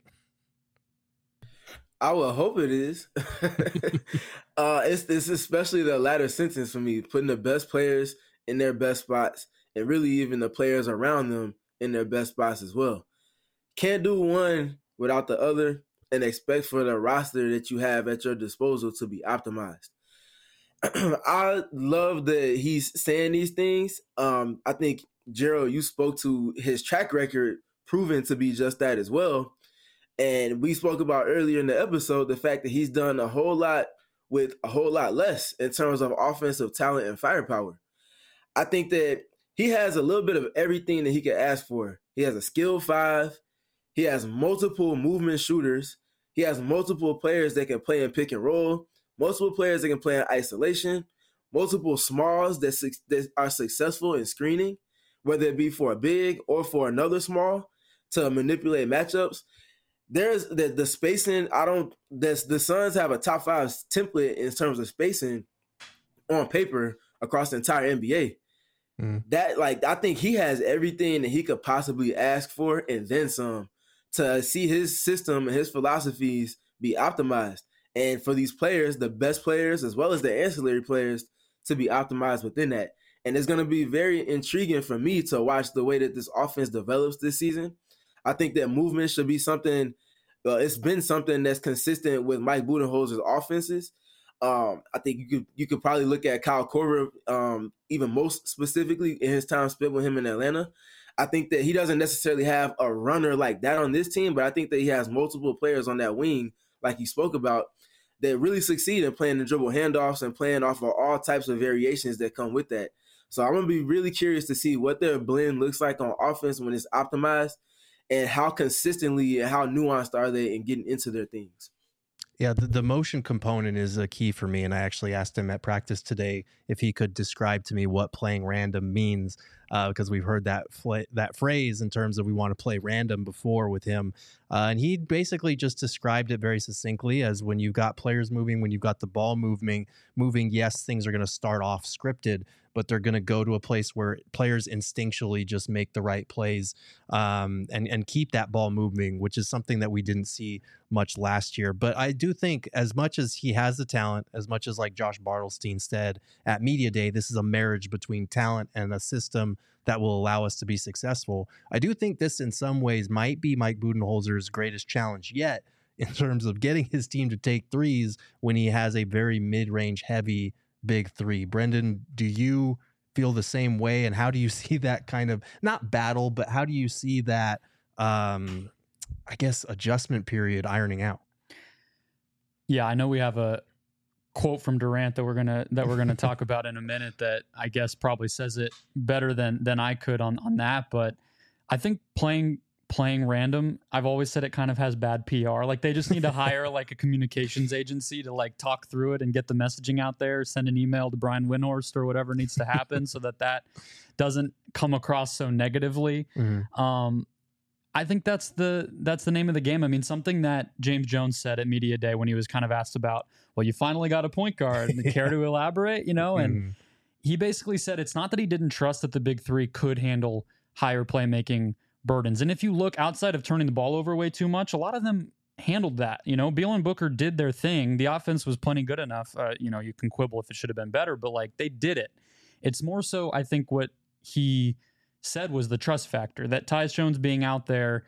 I would hope it is. uh, it's, it's especially the latter sentence for me, putting the best players in their best spots, and really even the players around them in their best spots as well. Can't do one without the other, and expect for the roster that you have at your disposal to be optimized. I love that he's saying these things. Um, I think, Gerald, you spoke to his track record proving to be just that as well. And we spoke about earlier in the episode the fact that he's done a whole lot with a whole lot less in terms of offensive talent and firepower. I think that he has a little bit of everything that he could ask for. He has a skilled five. He has multiple movement shooters. He has multiple players that can play in pick and roll, multiple players that can play in isolation, multiple smalls that, su- that are successful in screening, whether it be for a big or for another small, to manipulate matchups. There's the, the spacing. I don't. This, the Suns have a top five template in terms of spacing on paper across the entire N B A. Mm. That like I think he has everything that he could possibly ask for and then some to see his system and his philosophies be optimized. And for these players, the best players as well as the ancillary players, to be optimized within that. And it's going to be very intriguing for me to watch the way that this offense develops this season. I think that movement should be something, uh, it's been something that's consistent with Mike Budenholzer's offenses. Um, I think you could you could probably look at Kyle Korver um, even most specifically in his time spent with him in Atlanta. I think that he doesn't necessarily have a runner like that on this team, but I think that he has multiple players on that wing, like he spoke about, that really succeed in playing the dribble handoffs and playing off of all types of variations that come with that. So I'm going to be really curious to see what their blend looks like on offense when it's optimized, and how consistently and how nuanced are they in getting into their things. Yeah, the, the motion component is a key for me, and I actually asked him at practice today if he could describe to me what playing random means, uh, because we've heard that fl- that phrase in terms of we want to play random before with him, uh, and he basically just described it very succinctly as when you've got players moving, when you've got the ball moving, moving. Yes, things are going to start off scripted, but they're going to go to a place where players instinctually just make the right plays um, and, and keep that ball moving, which is something that we didn't see much last year. But I do think as much as he has the talent, as much as like Josh Bartelstein said at Media Day, this is a marriage between talent and a system that will allow us to be successful. I do think this in some ways might be Mike Budenholzer's greatest challenge yet in terms of getting his team to take threes when he has a very mid-range heavy big three. Brendan, do you feel the same way? And how do you see that kind of, not battle, but how do you see that, um, I guess, adjustment period ironing out? Yeah, I know we have a quote from Durant that we're gonna that we're gonna talk about in a minute that I guess probably says it better than than I could on on that. But I think playing playing random, I've always said it kind of has bad P R. Like they just need to hire like a communications agency to like talk through it and get the messaging out there, send an email to Brian Windhorst or whatever needs to happen so that that doesn't come across so negatively. Mm-hmm. Um, I think that's the that's the name of the game. I mean, something that James Jones said at Media Day when he was kind of asked about, well, you finally got a point guard. Yeah. Care to elaborate? You know, and mm-hmm. he basically said it's not that he didn't trust that the big three could handle higher playmaking burdens. And if you look outside of turning the ball over way too much, a lot of them handled that. You know, Beal and Booker did their thing. The offense was plenty good enough. Uh, you know, you can quibble if it should have been better, but like they did it. It's more so, I think, what he said was the trust factor, that Tyus Jones being out there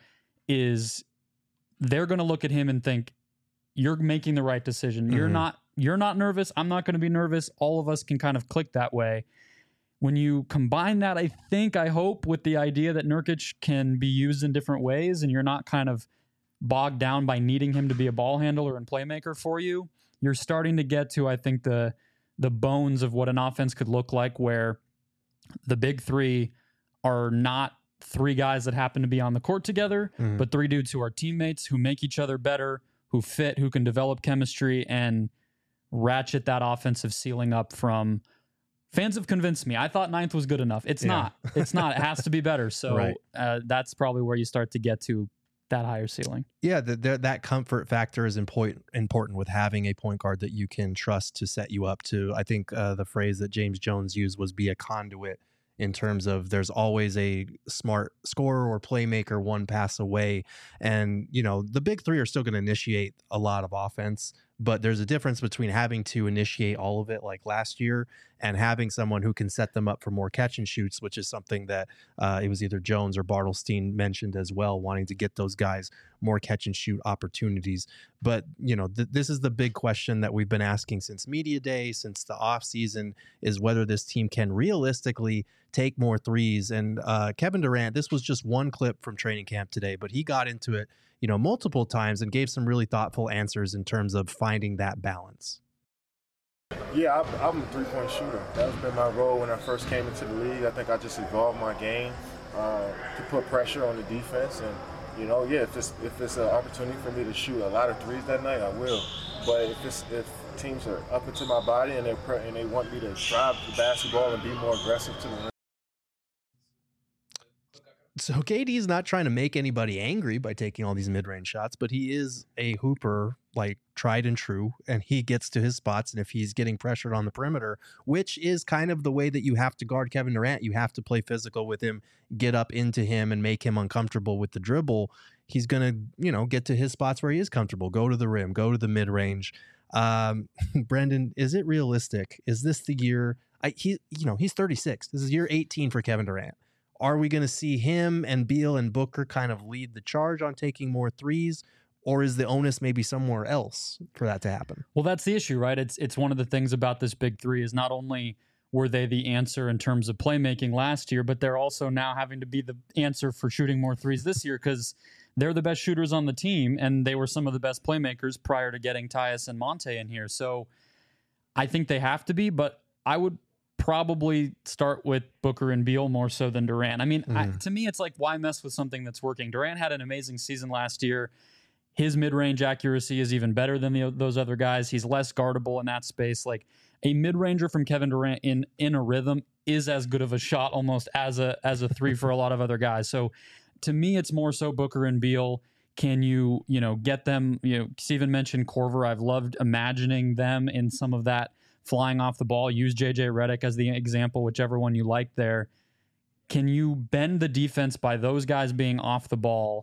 is they're going to look at him and think, you're making the right decision. Mm-hmm. You're not, you're not nervous. I'm not going to be nervous. All of us can kind of click that way. When you combine that, I think, I hope, with the idea that Nurkic can be used in different ways and you're not kind of bogged down by needing him to be a ball handler and playmaker for you, you're starting to get to, I think, the the bones of what an offense could look like, where the big three are not three guys that happen to be on the court together, mm-hmm. but three dudes who are teammates, who make each other better, who fit, who can develop chemistry and ratchet that offensive ceiling up from... Fans have convinced me. I thought ninth was good enough. It's yeah. not. It's not. It has to be better. So right. uh, that's probably where you start to get to that higher ceiling. Yeah, the, the, that comfort factor is important important with having a point guard that you can trust to set you up to. I think uh, the phrase that James Jones used was be a conduit, in terms of there's always a smart scorer or playmaker one pass away. And, you know, the big three are still going to initiate a lot of offense, but there's a difference between having to initiate all of it like last year and having someone who can set them up for more catch and shoots, which is something that uh, it was either Jones or Bartelstein mentioned as well, wanting to get those guys more catch and shoot opportunities. But, you know, th- this is the big question that we've been asking since Media Day, since the off season, is whether this team can realistically take more threes. And uh, Kevin Durant, this was just one clip from training camp today, but he got into it, you know, multiple times and gave some really thoughtful answers in terms of finding that balance. Yeah, I'm a three-point shooter. That's been my role when I first came into the league. I think I just evolved my game uh, to put pressure on the defense. And, you know, yeah, if it's, if it's an opportunity for me to shoot a lot of threes that night, I will. But if it's, if teams are up into my body and, they're, and they want me to drive the basketball and be more aggressive to the rim. So K D's not trying to make anybody angry by taking all these mid-range shots, but he is a hooper, like tried and true, and he gets to his spots. And if he's getting pressured on the perimeter, which is kind of the way that you have to guard Kevin Durant, you have to play physical with him, get up into him and make him uncomfortable with the dribble. He's going to, you know, get to his spots where he is comfortable, go to the rim, go to the mid-range. Um, Brendan, is it realistic? Is this the year? I, he, you know, he's thirty-six. This is year eighteen for Kevin Durant. Are we going to see him and Beal and Booker kind of lead the charge on taking more threes, or is the onus maybe somewhere else for that to happen? Well, that's the issue, right? It's it's one of the things about this big three is not only were they the answer in terms of playmaking last year, but they're also now having to be the answer for shooting more threes this year because they're the best shooters on the team, and they were some of the best playmakers prior to getting Tyus and Monte in here. So I think they have to be, but I would probably start with Booker and Beal more so than Durant. I mean, mm. I, to me, it's like, why mess with something that's working? Durant had an amazing season last year. His mid-range accuracy is even better than the, those other guys. He's less guardable in that space. Like a mid-ranger from Kevin Durant in in a rhythm is as good of a shot almost as a as a three for a lot of other guys. So to me, it's more so Booker and Beal. Can you, you know, get them, you know, Steven mentioned Korver. I've loved imagining them in some of that flying off the ball. Use J J Redick as the example, whichever one you like there. Can you bend the defense by those guys being off the ball,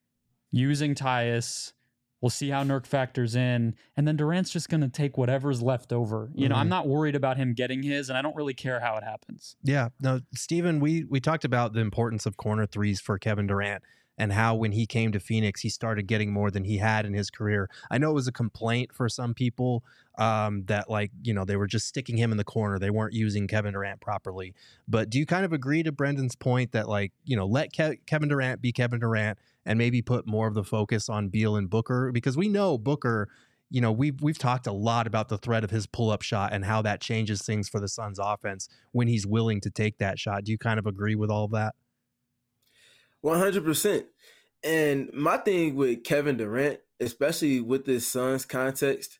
using Tyus? We'll see how Nurk factors in. And then Durant's just going to take whatever's left over. You mm-hmm. know, I'm not worried about him getting his, and I don't really care how it happens. Yeah. No, Steven, we, we talked about the importance of corner threes for Kevin Durant and how when he came to Phoenix, he started getting more than he had in his career. I know it was a complaint for some people um, that, like, you know, they were just sticking him in the corner. They weren't using Kevin Durant properly. But do you kind of agree to Brendan's point that, like, you know, let Ke- Kevin Durant be Kevin Durant and maybe put more of the focus on Beal and Booker? Because we know Booker, you know, we've, we've talked a lot about the threat of his pull-up shot and how that changes things for the Suns offense when he's willing to take that shot. Do you kind of agree with all of that? one hundred percent. And my thing with Kevin Durant, especially with this Suns context,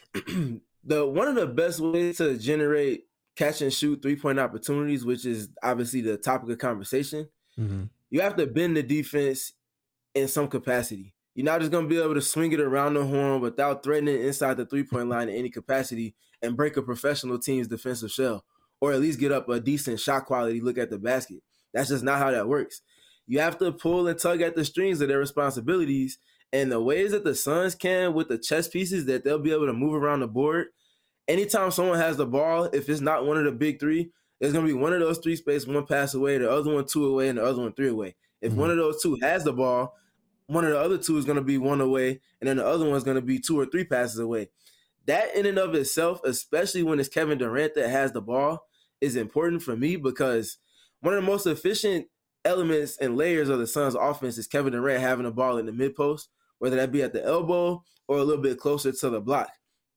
the one of the best ways to generate catch and shoot three-point opportunities, which is obviously the topic of conversation, mm-hmm. you have to bend the defense in some capacity. You're not just going to be able to swing it around the horn without threatening inside the three-point line in any capacity and break a professional team's defensive shell, or at least get up a decent shot quality look at the basket. That's just not how that works. You have to pull and tug at the strings of their responsibilities, and the ways that the Suns can with the chess pieces that they'll be able to move around the board. Anytime someone has the ball, if it's not one of the big three, it's going to be one of those three space, one pass away, the other one two away, and the other one three away. If mm-hmm. one of those two has the ball, one of the other two is going to be one away, and then the other one is going to be two or three passes away. That in and of itself, especially when it's Kevin Durant that has the ball, is important for me because one of the most efficient elements and layers of the Suns' offense is Kevin Durant having the ball in the mid-post, whether that be at the elbow or a little bit closer to the block.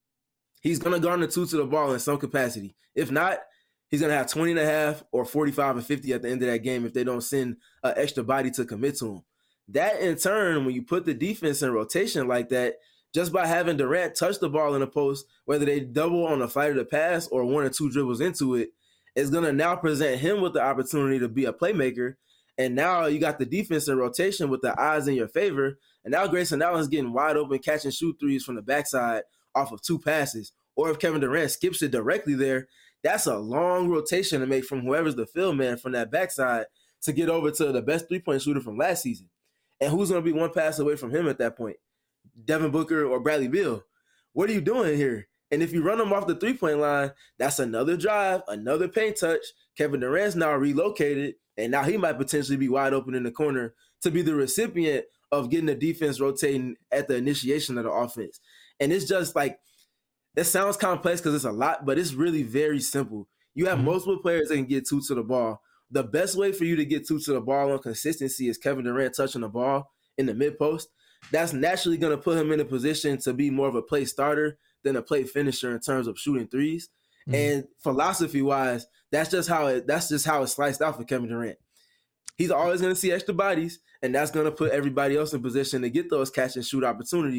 He's going to guard the two to the ball in some capacity. If not, he's going to have twenty and a half or forty-five and fifty at the end of that game if they don't send an extra body to commit to him. That, in turn, when you put the defense in rotation like that, just by having Durant touch the ball in the post, whether they double on the flight of the pass or one or two dribbles into it, is going to now present him with the opportunity to be a playmaker. And now you got the defense in rotation with the odds in your favor. And now Grayson Allen's getting wide open, catch and shoot threes from the backside off of two passes. Or if Kevin Durant skips it directly there, that's a long rotation to make from whoever's the field man from that backside to get over to the best three-point shooter from last season. And who's going to be one pass away from him at that point? Devin Booker or Bradley Beal. What are you doing here? And if you run them off the three-point line, that's another drive, another paint touch. Kevin Durant's now relocated, and now he might potentially be wide open in the corner to be the recipient of getting the defense rotating at the initiation of the offense. And it's just like, that sounds complex because it's a lot, but it's really very simple. You have mm-hmm. multiple players that can get two to the ball. The best way for you to get two to the ball on consistency is Kevin Durant touching the ball in the mid-post. That's naturally going to put him in a position to be more of a play starter than a play finisher in terms of shooting threes. Mm-hmm. And philosophy-wise, that's just how it that's just how it's sliced out for Kevin Durant. He's always going to see extra bodies, and that's going to put everybody else in position to get those catch and shoot opportunities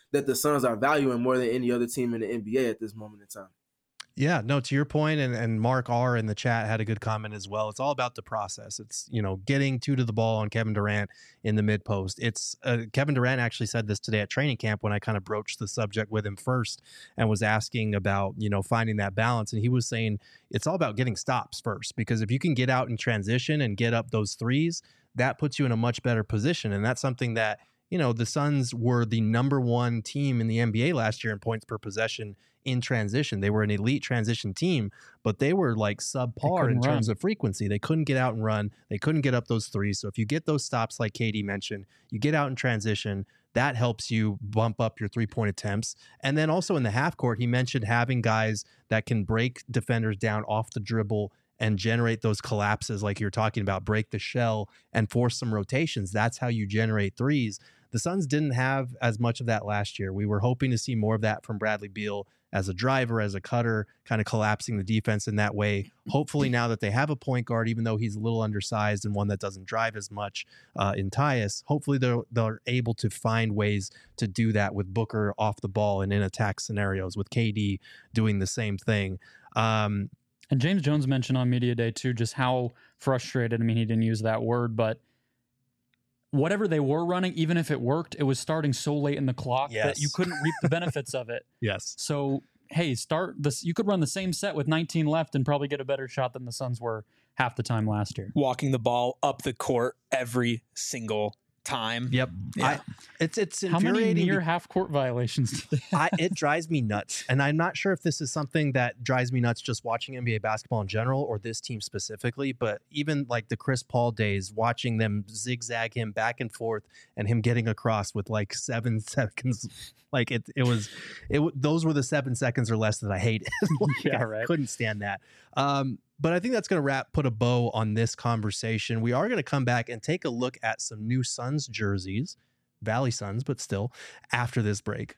that the Suns are valuing more than any other team in the N B A at this moment in time. Yeah, no, to your point, and, and Mark R in the chat had a good comment as well. It's all about the process. It's, you know, getting two to the ball on Kevin Durant in the mid post. It's uh, Kevin Durant actually said this today at training camp when I kind of broached the subject with him first and was asking about, you know, finding that balance. And he was saying it's all about getting stops first, because if you can get out in transition and get up those threes, that puts you in a much better position. And that's something that, you know, the Suns were the number one team in the N B A last year in points per possession in transition. They were an elite transition team, but they were like subpar in terms run. of frequency. They couldn't get out and run. They couldn't get up those threes. So if you get those stops, like K D mentioned, you get out in transition, that helps you bump up your three-point attempts. And then also in the half court, he mentioned having guys that can break defenders down off the dribble and generate those collapses like you're talking about, break the shell and force some rotations. That's how you generate threes. The Suns didn't have as much of that last year. We were hoping to see more of that from Bradley Beal as a driver, as a cutter, kind of collapsing the defense in that way. Hopefully now that they have a point guard, even though he's a little undersized and one that doesn't drive as much uh, in Tyus, hopefully they're, they're able to find ways to do that with Booker off the ball and in attack scenarios, with K D doing the same thing. Um, And James Jones mentioned on Media Day, too, just how frustrated, I mean, he didn't use that word, but whatever they were running, even if it worked, it was starting so late in the clock yes. that you couldn't reap the benefits of it. Yes. So, hey, start this. You could run the same set with nineteen left and probably get a better shot than the Suns were half the time last year. Walking the ball up the court every single time. Yep. Yeah. I, it's it's How many infuriating. near half court violations do they have? I, it drives me nuts. And I'm not sure if this is something that drives me nuts just watching N B A basketball in general or this team specifically, but even like the Chris Paul days, watching them zigzag him back and forth and him getting across with like seven seconds. Like it, it was, it those were the seven seconds or less that I hated. Like, Yeah, I right. couldn't stand that. Um, but I think that's going to wrap, put a bow on this conversation. We are going to come back and take a look at some new Suns jerseys, Valley Suns, but still, after this break.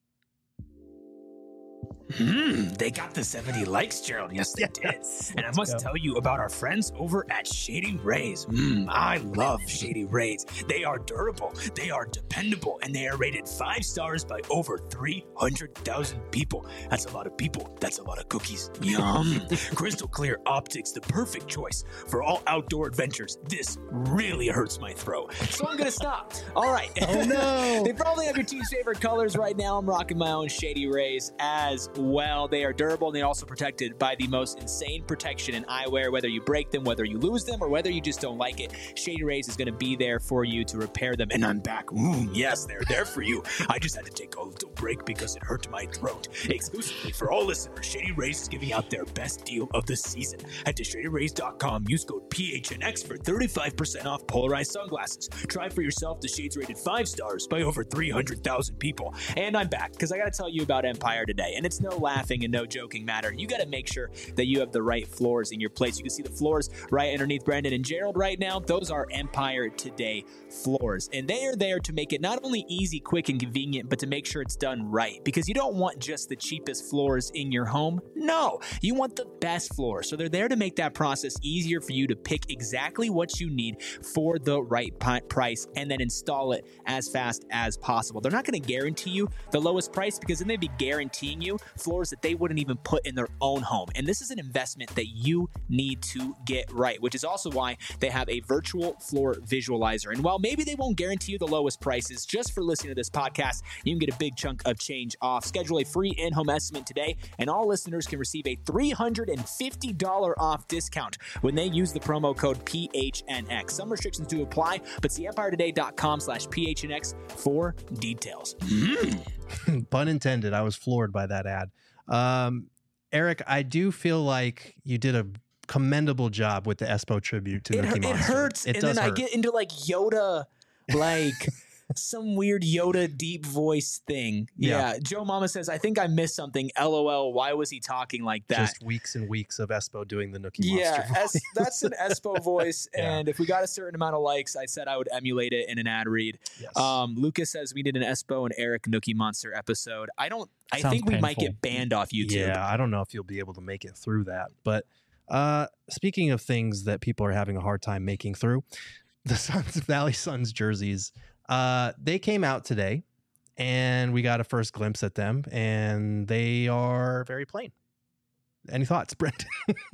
Hmm, they got the seventy likes, Gerald. Yes, they did. Yes, And I let's must go. tell you about our friends over at Shady Rays. Hmm, I love Shady Rays. They are durable, they are dependable, and they are rated five stars by over three hundred thousand people. That's a lot of people. That's a lot of cookies. Yum. Crystal clear optics, the perfect choice for all outdoor adventures. This really hurts my throat, so I'm going to stop. All right. Oh, no. They probably have your team's favorite colors right now. I'm rocking my own Shady Rays as well. They are durable and they're also protected by the most insane protection in eyewear. Whether you break them, whether you lose them, or whether you just don't like it, Shady Rays is going to be there for you to repair them. And I'm back. Mm, yes, they're there for you. I just had to take a little break because it hurt my throat. Exclusively for all listeners, Shady Rays is giving out their best deal of the season. Head to shady rays dot com. Use code P H N X for thirty-five percent off polarized sunglasses. Try for yourself the shades rated five stars by over three hundred thousand people. And I'm back because I got to tell you about Empire today. And it's no laughing and no joking matter. You got to make sure that you have the right floors in your place. You can see the floors right underneath Brendan and Gerald right now. Those are Empire Today floors. And they are there to make it not only easy, quick, and convenient, but to make sure it's done right. Because you don't want just the cheapest floors in your home. No, you want the best floors. So they're there to make that process easier for you to pick exactly what you need for the right pi- price and then install it as fast as possible. They're not going to guarantee you the lowest price because then they'd be guaranteeing you floors that they wouldn't even put in their own home. And this is an investment that you need to get right, which is also why they have a virtual floor visualizer. And while maybe they won't guarantee you the lowest prices, just for listening to this podcast, you can get a big chunk of change off. Schedule a free in-home estimate today, and all listeners can receive a three hundred fifty dollars off discount when they use the promo code P H N X. Some restrictions do apply, but see empire today dot com slash P H N X for details. Mm. Pun intended. I was floored by that ad. Um, Eric, I do feel like you did a commendable job with the Espo tribute to It, Nookie hurt, Monster. it hurts, It and does then hurt. I get into like Yoda, like some weird Yoda deep voice thing. Yeah. Yeah. Joe Mama says, I think I missed something. LOL. Why was he talking like that? Just weeks and weeks of Espo doing the Nookie Yeah, Monster voice. es- that's an Espo voice. Yeah. And if we got a certain amount of likes, I said I would emulate it in an ad read. Yes. Um, Lucas says we did an Espo and Eric Nookie Monster episode. I don't, I Sounds think we might painful. get banned off YouTube. Yeah, I don't know if you'll be able to make it through that. But uh, speaking of things that people are having a hard time making through, the Suns Valley Suns jerseys, uh, they came out today, and we got a first glimpse at them, and they are very plain. Any thoughts, Brent?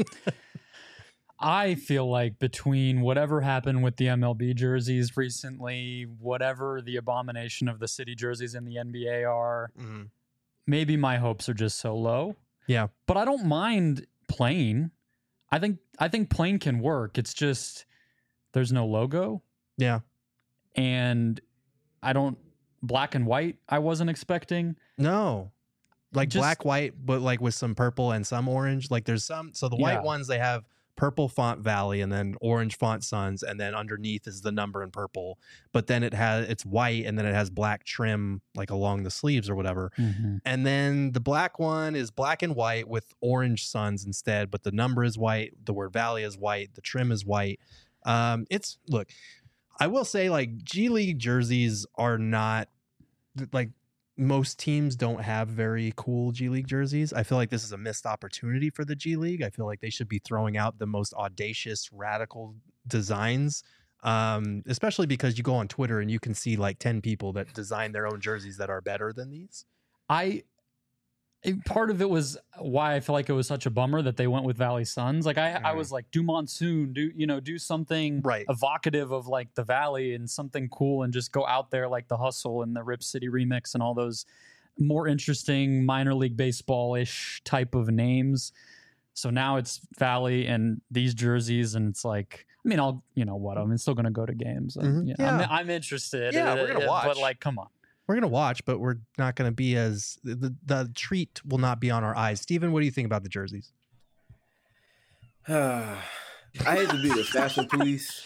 I feel like between whatever happened with the M L B jerseys recently, whatever the abomination of the city jerseys in the N B A are, mm-hmm. maybe my hopes are just so low. Yeah. But I don't mind plain. I think I think plain can work. It's just there's no logo. Yeah. And I don't black and white I wasn't expecting. No. Like just, black, white, but like with some purple and some orange. Like there's some so the white yeah. ones they have purple font Valley and then orange font Suns, and then underneath is the number in purple, but then it has it's white and then it has black trim like along the sleeves or whatever. Mm-hmm. And then the black one is black and white with orange Suns instead, but the number is white, the word Valley is white, the trim is white. Um it's look, I will say like G League jerseys are not like most teams don't have very cool G League jerseys. I feel like this is a missed opportunity for the G League. I feel like they should be throwing out the most audacious, radical designs, um, especially because you go on Twitter and you can see like ten people that design their own jerseys that are better than these. I part of it was why I feel like it was such a bummer that they went with Valley Suns. Like I, mm. I was like, do monsoon, do you know, do something right. evocative of like the Valley and something cool, and just go out there like the Hustle and the Rip City remix and all those more interesting minor league baseball ish type of names. So now it's Valley and these jerseys, and it's like, I mean, I'll you know what, I'm still gonna go to games. And, mm-hmm. you know, yeah, I'm, I'm interested. Yeah, we're gonna watch, but like, come on. We're going to watch, but we're not going to be as the, the treat will not be on our eyes. Steven, what do you think about the jerseys? I hate to be the fashion police.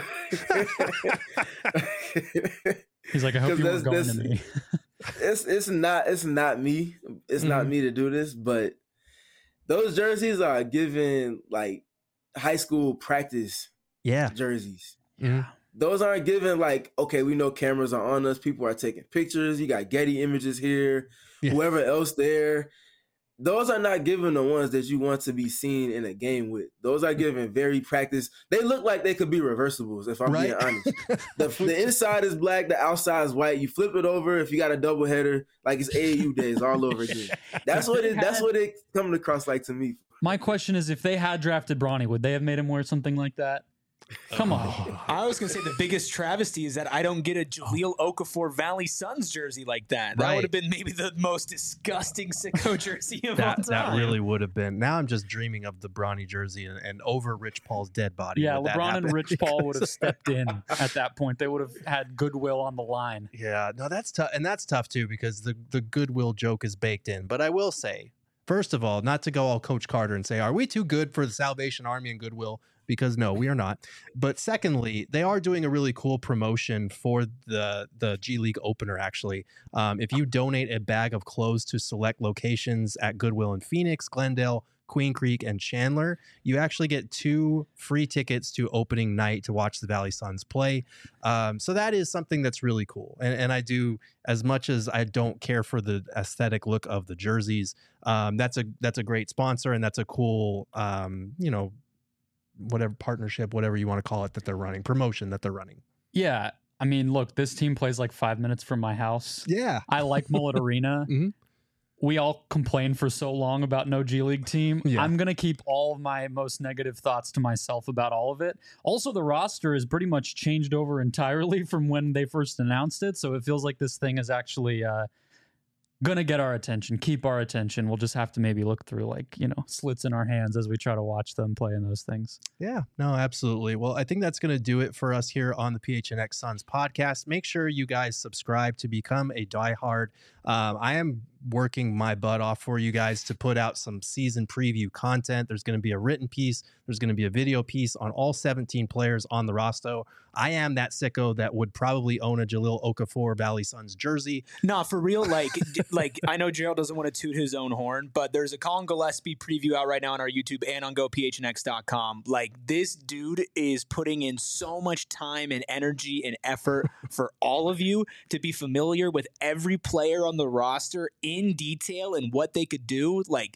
He's like, I hope you were going to me. it's it's not it's not me. It's mm-hmm. not me to do this, but those jerseys are given like high school practice yeah. jerseys. Yeah. Those aren't given like, okay, we know cameras are on us. People are taking pictures. You got Getty images here, yeah. whoever else there. Those are not given the ones that you want to be seen in a game with. Those are given very practice. They look like they could be reversibles, if I'm right? being honest. The, the inside is black, the outside is white. You flip it over if you got a double header, like it's A A U days all over again. That's what it. That's what it coming across like to me. My question is, if they had drafted Bronny, would they have made him wear something like that? Come on. I was going to say the biggest travesty is that I don't get a Jahlil Okafor Valley Suns jersey like that. That right. would have been maybe the most disgusting sicko jersey of that, all time. That really would have been. Now I'm just dreaming of the Bronny jersey and, and over Rich Paul's dead body. Yeah, LeBron and Rich Paul would have stepped in at that point. They would have had goodwill on the line. Yeah, no, that's tough. And that's tough too, because the, the goodwill joke is baked in. But I will say, first of all, not to go all Coach Carter and say, are we too good for the Salvation Army and goodwill? Because no, we are not. But secondly, they are doing a really cool promotion for the the G League opener, actually. Um, if you donate a bag of clothes to select locations at Goodwill in Phoenix, Glendale, Queen Creek, and Chandler, you actually get two free tickets to opening night to watch the Valley Suns play. Um, so that is something that's really cool. And, and I do, as much as I don't care for the aesthetic look of the jerseys, um, that's a that's a great sponsor, and that's a cool, um, you know, whatever partnership, whatever you want to call it, that they're running, promotion that they're running. Yeah. I mean, look, this team plays like five minutes from my house. Yeah. I like Mullet Arena. Mm-hmm. We all complained for so long about no G League team. Yeah. I'm going to keep all of my most negative thoughts to myself about all of it. Also, the roster is pretty much changed over entirely from when they first announced it. So it feels like this thing is actually uh, going to get our attention, keep our attention. We'll just have to maybe look through like, you know, slits in our hands as we try to watch them play in those things. Yeah, no, absolutely. Well, I think that's going to do it for us here on the P H N X Suns podcast. Make sure you guys subscribe to become a diehard. Um, I am working my butt off for you guys to put out some season preview content. There's going to be a written piece. There's going to be a video piece on all seventeen players on the roster. I am that sicko that would probably own a Jahlil Okafor Valley Suns jersey. Nah, for real. Like, like I know Gerald doesn't want to toot his own horn, but there's a Colin Gillespie preview out right now on our YouTube and on go P H N X dot com. Like, this dude is putting in so much time and energy and effort for all of you to be familiar with every player on the roster in detail and what they could do. Like,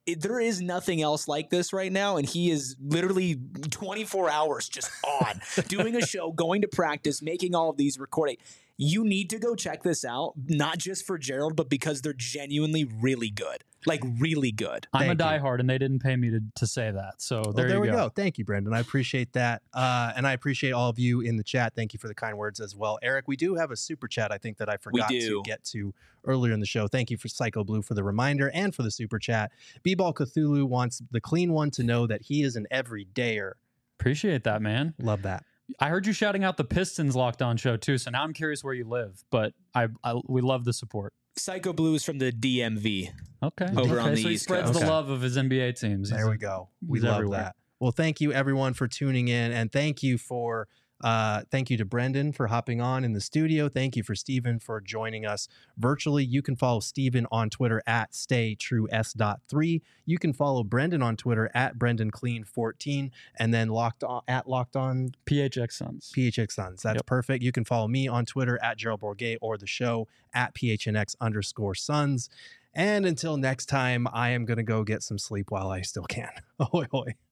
it, there is nothing else like this right now, and he is literally twenty-four hours just on, doing a show, going to practice, making all of these recording. You need to go check this out, not just for Gerald, but because they're genuinely really good. Like, really good. I'm Thank a you. diehard, and they didn't pay me to, to say that. So Well, there, there you we go. go. Thank you, Brendan. I appreciate that. Uh, and I appreciate all of you in the chat. Thank you for the kind words as well. Eric, we do have a super chat, I think, that I forgot do. to get to earlier in the show. Thank you for Psycho Blue for the reminder and for the super chat. B-Ball Cthulhu wants the clean one to know that he is an everydayer. Appreciate that, man. Love that. I heard you shouting out the Pistons Locked On show, too, so now I'm curious where you live. But I, I we love the support. Psycho Blue is from the D M V. Okay. Over okay, on the so he East spreads Coast. the Okay. love of his N B A teams. There He's- we go. We he's love everywhere. that. Well, thank you everyone for tuning in, and thank you for uh, thank you to Brendan for hopping on in the studio. Thank you for Steven for joining us virtually. You can follow Steven on Twitter at stay true s dot three. You can follow Brendan on Twitter at Brendan Clean fourteen, and then locked on at locked on P H X Suns. P H X Suns. That's Yep. perfect. You can follow me on Twitter at Gerald Bourget or the show at P H N X underscore Suns. And until next time, I am going to go get some sleep while I still can. Ahoy, hoy.